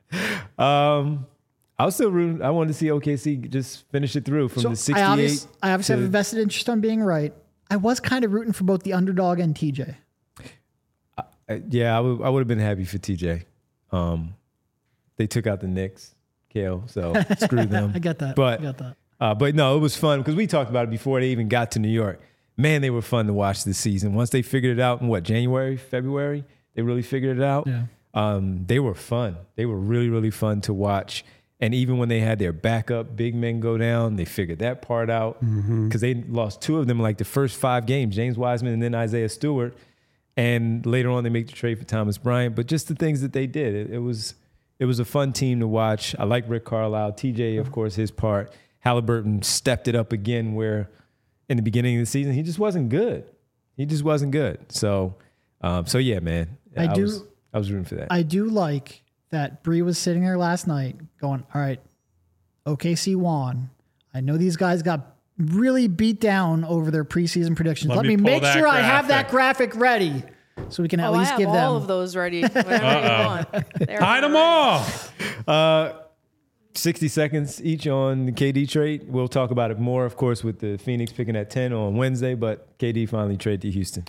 Um, I was still rooting. I wanted to see O K C just finish it through from So the I sixty-eight. obviously, I obviously have to- a vested interest on being right. I was kind of rooting for both the underdog and T J. Uh, yeah, I would. I would have been happy for T J. Um, they took out the Knicks, K O, so screw them. I get that. But I get that. Uh, but no, it was fun because we talked about it before they even got to New York. Man, they were fun to watch this season. Once they figured it out in what, January, February, they really figured it out. Yeah. Um, they were fun. They were really, really fun to watch. And even when they had their backup big men go down, they figured that part out because they lost two of them like the first five games, James Wiseman and then Isaiah Stewart. And later on, they make the trade for Thomas Bryant. But just the things that they did, it, it was it was a fun team to watch. I like Rick Carlisle. T J, of course, his part. Halliburton stepped it up again where in the beginning of the season, he just wasn't good. He just wasn't good. So, um, so yeah, man. I do- Was, I was rooting for that. I do like that Bree was sitting there last night going, all right, O K C won. I know these guys got really beat down over their preseason predictions. Let Let, me me, pull make that sure I have that graphic. graphic ready so we can at Oh, I least have give all them. of those ready. Whenever you want. They're Hide them ready. all. Uh, sixty seconds each on the K D trade. We'll talk about it more, of course, with the Phoenix picking at ten on Wednesday, but K D finally traded to Houston.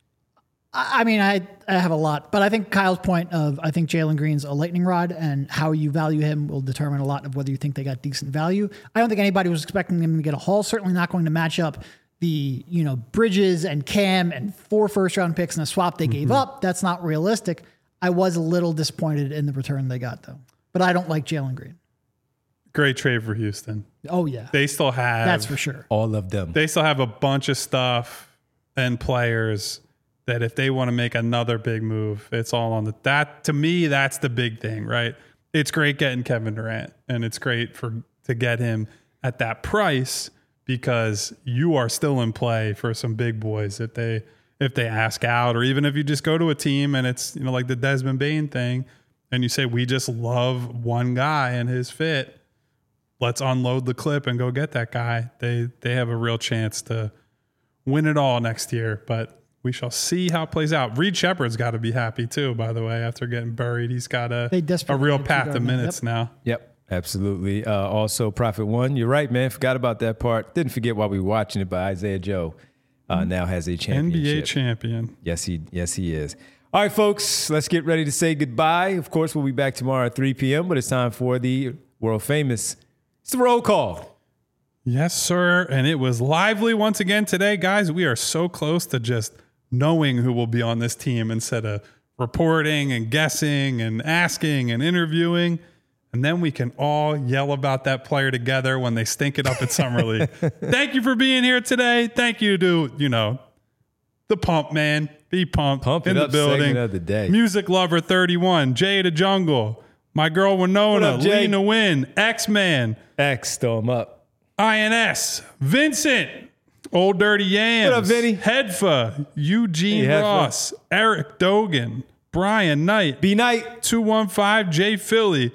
I I mean, I, I have a lot, but I think Kyle's point of I think Jalen Green's a lightning rod and how you value him will determine a lot of whether you think they got decent value. I don't think anybody was expecting them to get a haul. Certainly not going to match up the, you know, Bridges and Cam and four first round picks and a swap they gave up. That's not realistic. I was a little disappointed in the return they got though, but I don't like Jalen Green. Great trade for Houston. Oh yeah, They still have. that's for sure. All of them. They still have a bunch of stuff and players that if they want to make another big move, it's all on the that to me, that's the big thing, right? It's great getting Kevin Durant and it's great for to get him at that price because you are still in play for some big boys if they if they ask out, or even if you just go to a team and it's, you know, like the Desmond Bane thing, and you say, we just love one guy and his fit. Let's unload the clip and go get that guy. They they have a real chance to win it all next year, but we shall see how it plays out. Reed Shepard's got to be happy too, by the way, after getting buried. He's got a, They a desperately real need two path to guard men. minutes Yep. now. Yep, absolutely. Uh, also, Prophet One, you're right, man. Forgot about that part. Didn't forget while we were watching it, but Isaiah Joe uh, now has a N championship. B A champion. Yes, he yes he is. All right, folks, let's get ready to say goodbye. Of course, we'll be back tomorrow at three p.m., but it's time for the world famous. It's the roll call. Yes, sir. And it was lively once again today. Guys, we are so close to just knowing who will be on this team instead of reporting and guessing and asking and interviewing. And then we can all yell about that player together when they stink it up at Summer League. Thank you for being here today. Thank you to, you know, the Pump Man, Be Pumped Pump in It the Up building. segment of the day. Music Lover thirty-one, Jay the Jungle, my girl Winona, What up, Jay? Lena Win, X-Man, X, throw him up. I N S, Vincent, Old Dirty Yams, What up, Vinny? Hedfa, Eugene Hey, Hedfa. Ross, Eric Dogan, Brian Knight, B Night. two one five, Jay Philly,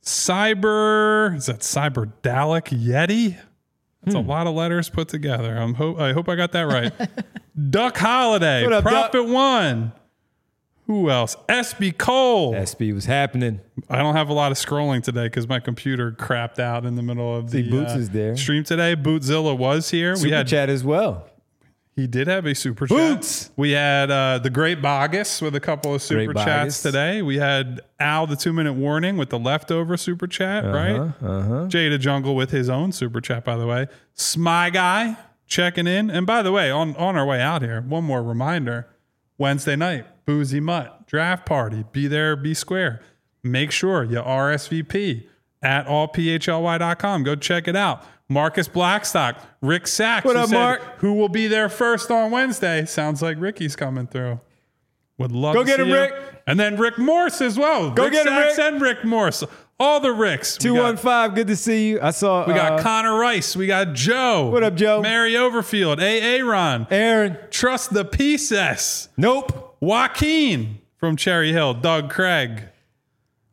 Cyber, is that Cyber Dalek Yeti? That's Hmm. a lot of letters put together. I'm ho- I hope I got that right. Duck Holiday, What up, Prophet One. Who else? S B Cole. S B was happening. I don't have a lot of scrolling today because my computer crapped out in the middle of See, the Boots uh, is there. stream today. Bootzilla was here. Super we had chat as well. he did have a super Boots. chat. We had uh, the Great Bogus with a couple of super Great chats Bogus. today. We had Al the two minute warning with the leftover super chat, right? Uh-huh. Jay the Jungle with his own super chat, by the way. Smy Guy checking in. And by the way, on, on our way out here, one more reminder. Wednesday night, Boozy Mutt, draft party. Be there, be square. Make sure you R S V P at all p h l y dot com. Go check it out. Marcus Blackstock, Rick Sachs. What who up, said, Mark? Who will be there first on Wednesday? Sounds like Ricky's coming through. Would love Go to get see him, you. Rick. And then Rick Morse as well. Go Rick get him, Sachs Rick. and Rick Morse. All the Ricks. We two got- one five, good to see you. I saw We got uh, Connor Rice. We got Joe. What up, Joe? Mary Overfield. A. Aaron. Aaron. Trust the Pieces. Nope. Joaquin from Cherry Hill. Doug Craig.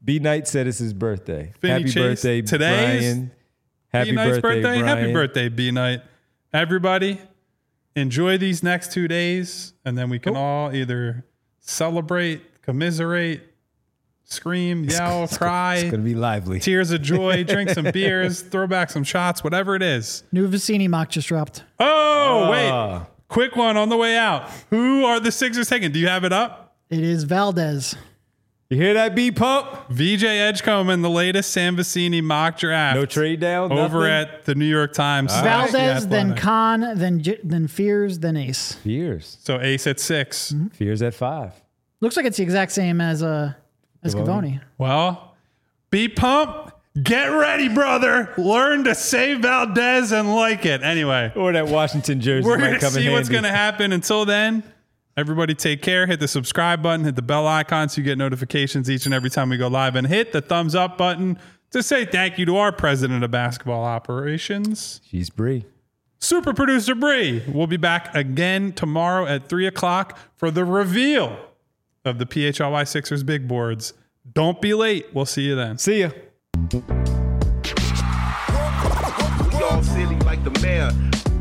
B Knight said it's his birthday. Finney Happy Chase, birthday, today is Brian. Happy B Knight's birthday, birthday. Brian. Happy birthday, B Knight. Everybody, enjoy these next two days, and then we can Oh. all either celebrate, commiserate, scream, yell, cry, It's gonna be lively. tears of joy, drink some beers, throw back some shots, whatever it is. New Vicini mock just dropped. Oh, wait. Ah. Quick one on the way out. Who are the Sixers taking? Do you have it up? It is Valdez. You hear that, B Pump? V J Edgecombe, the latest Sam Vecini mock draft. No trade down. Over nothing? at the New York Times. All right. Valdez, Yeah, then Athletic. Khan, then J- then Fears, then Ace. Fears. So Ace at six. Fears at five. Looks like it's the exact same as uh as Cavoni. Cavoni. Well, be pumped. Get ready, brother. Learn to say Valdez and like it. Anyway, Or that Washington jersey we're might going to come in see what's handy. going to happen. Until then, everybody take care. Hit the subscribe button. Hit the bell icon so you get notifications each and every time we go live. And hit the thumbs up button to say thank you to our president of basketball operations, She's Bree. super producer Bree. We'll be back again tomorrow at three o'clock for the reveal of the P H L Y Sixers big boards. Don't be late. We'll see you then. See ya. Y'all silly like the mayor.